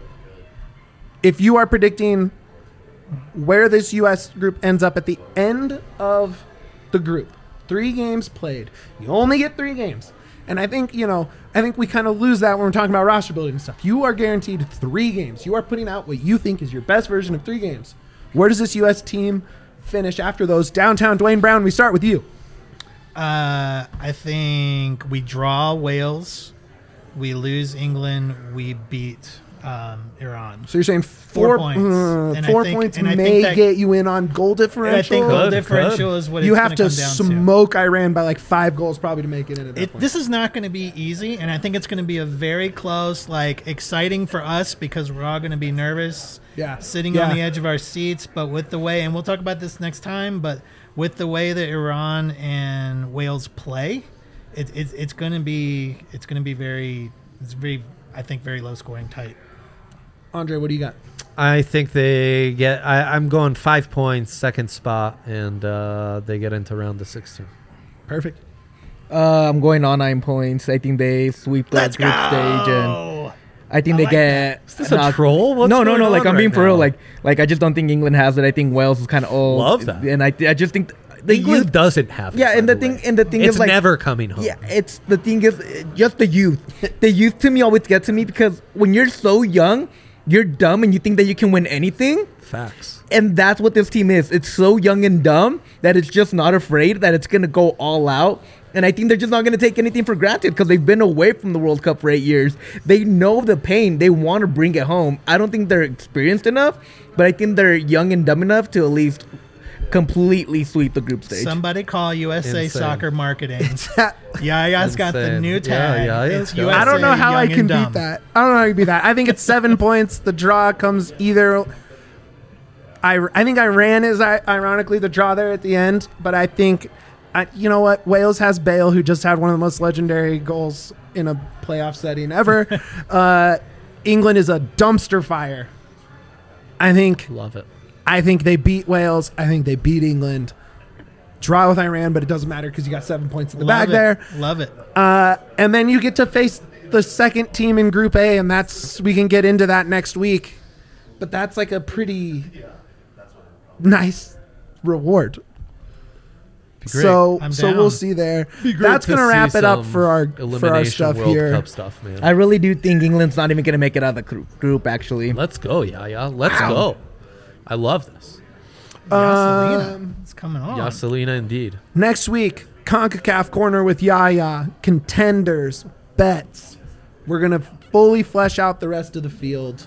If you are predicting where this U S group ends up at the end of the group, three games played, you only get three games, and I think you know. I think we kind of lose that when we're talking about roster building and stuff. You are guaranteed three games. You are putting out what you think is your best version of three games. Where does this U S team finish after those? Downtown Dwayne Brown, we start with you. Uh, I think we draw Wales, we lose England, we beat um, Iran. So you're saying Four four, points. uh, And I four think- points and I may think that- get you in on goal And I differential. think goal Could, differential is what you it's have gonna to come down smoke Iran by like five goals probably to make it in at that It, point. this is not going to be easy, and I think it's going to be a very close, like exciting for us because we're all going to be nervous, Yeah. sitting Yeah. on the edge of our seats. But with the way, and we'll talk about this next time, but with the way that Iran and Wales play, it, it, it's going to be it's going to be very it's very I think very low scoring, tight. Andre, what do you got? I think they get. I, I'm going five points, second spot, and uh, they get into round of sixteen. Perfect. Uh, I'm going on nine points. I think they sweep the Let's group go. stage, and I think I they like get. Is this a knocked- troll? What's no, no, going no. Like on I'm being right for real. now? Like, like I just don't think England has it. I think Wales is kind of old. Love that. And I, I just think the England youth. doesn't have. Yeah, it, and by the thing, way. and the thing it's is like, never coming home. yeah, it's the thing is uh, just the youth. The youth to me always gets to me because when you're so young, you're dumb and you think that you can win anything. Facts. And that's what this team is. It's so young and dumb that it's just not afraid that it's going to go all out. And I think they're just not going to take anything for granted because they've been away from the World Cup for eight years. They know the pain. They want to bring it home. I don't think they're experienced enough, but I think they're young and dumb enough to at least completely sweep the group stage. Somebody call U S A Insane. Soccer Marketing. It's Yaya's got the Insane. new Yeah, tag. Yaya's It's got it. U S A I don't know how I Young can and beat Dumb. that. I don't know how I can beat that. I think it's seven points. The draw comes either. I, I think Iran is i- ironically the draw there at the end, but I think, I, you know what? Wales has Bale, who just had one of the most legendary goals in a playoff setting ever. uh, England is a dumpster fire. I think. Love it. I think they beat Wales. I think they beat England. Draw with Iran, but it doesn't matter because you got seven points in the Love bag it. there. Love it. Uh, and then you get to face the second team in Group A, and that's we can get into that next week. But that's like a pretty nice reward. Be great. So I'm so down. we'll see there. Be great That's to gonna see wrap it up some for our for our elimination stuff World here. Cup stuff, man. I really do think England's not even going to make it out of the group, group actually. Let's go, Yaya. Let's Wow. go. I love this. Yaselina. Um, It's coming on. Yaselina, indeed. Next week, CONCACAF Corner with Yaya, contenders, bets. We're going to fully flesh out the rest of the field.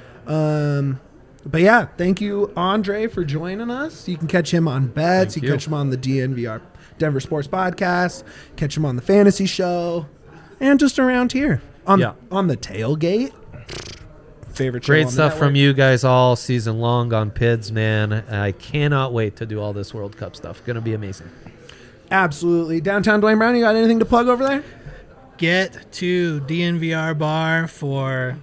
Um, but yeah, thank you, Andre, for joining us. You can catch him on bets. Thank You you. can catch him on the D N V R Denver Sports Podcast. Catch him on the Fantasy Show. And just around here on, Yeah. on the Tailgate. Favorite show Great on the stuff from network. you guys all season long on P I D S, man. I cannot wait to do all this World Cup stuff. Going to be amazing. Absolutely. Downtown Dwayne Brown, you got anything to plug over there? Get to D N V R Bar for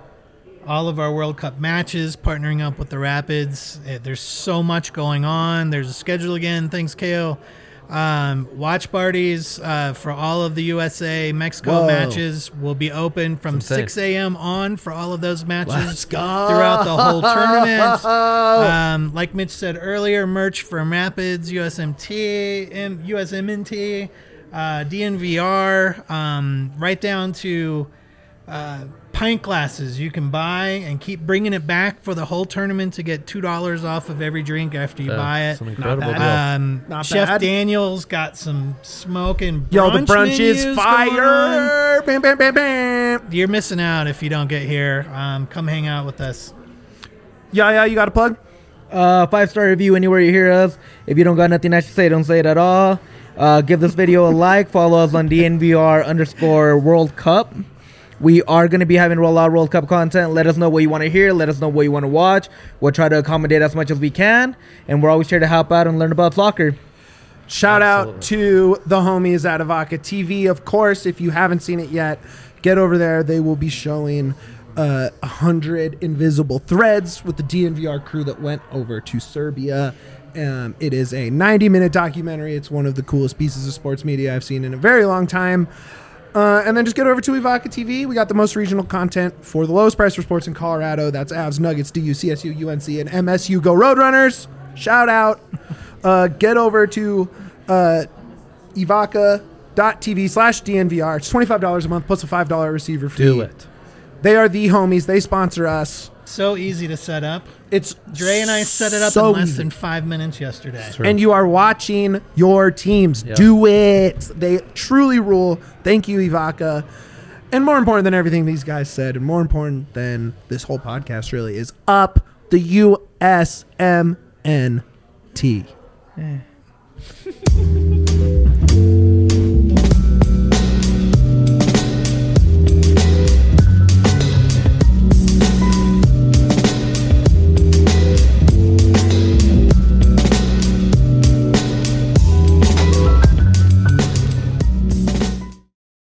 all of our World Cup matches, partnering up with the Rapids. Eh, There's so much going on. There's a schedule again. Thanks, Kale. Um, watch parties uh, for all of the U S A Mexico Whoa. matches will be open from It's insane. six a.m. on for all of those matches Let's go. throughout the whole tournament. Um, like Mitch said earlier, merch from Rapids, U S M T, M- U S M N T, uh, D N V R, um, right down to uh, pint glasses you can buy and keep bringing it back for the whole tournament to get two dollars off of every drink after you Yeah, buy it's it. an incredible bad. deal. Um, Not Chef bad. Daniel's got some smoking brunch Yo, the brunch menus is going on. fire. Bam, bam, bam, bam. You're missing out if you don't get here. Um, come hang out with us. Yeah, yeah, you got a plug? Uh, five star review anywhere you hear us. If you don't got nothing nice to say, don't say it at all. Uh, give this video a like. Follow us on D N V R underscore World Cup. We are going to be having roll out World Cup content. Let us know what you want to hear. Let us know what you want to watch. We'll try to accommodate as much as we can. And we're always here to help out and learn about soccer. Shout out Absolutely. to the homies at Avaca T V. Of course, if you haven't seen it yet, get over there. They will be showing uh, one hundred invisible threads with the D N V R crew that went over to Serbia. Um, it is a ninety minute documentary. It's one of the coolest pieces of sports media I've seen in a very long time. Uh, and then just get over to Avaca T V. We got the most regional content for the lowest price for sports in Colorado. That's Avs, Nuggets, D U, C S U, U N C, and M S U. Go Roadrunners. Shout out. Uh, get over to uh, Evaca.tv slash DNVR. It's twenty-five dollars a month plus a five dollars receiver fee. Do it. They are the homies. They sponsor us. So easy to set up. It's Dre and I set it up so in less easy. than five minutes yesterday. True. And you are watching your teams. Yep. Do it. They truly rule. Thank you, Evaca. And more important than everything these guys said, and more important than this whole podcast really, is up the U S M N T.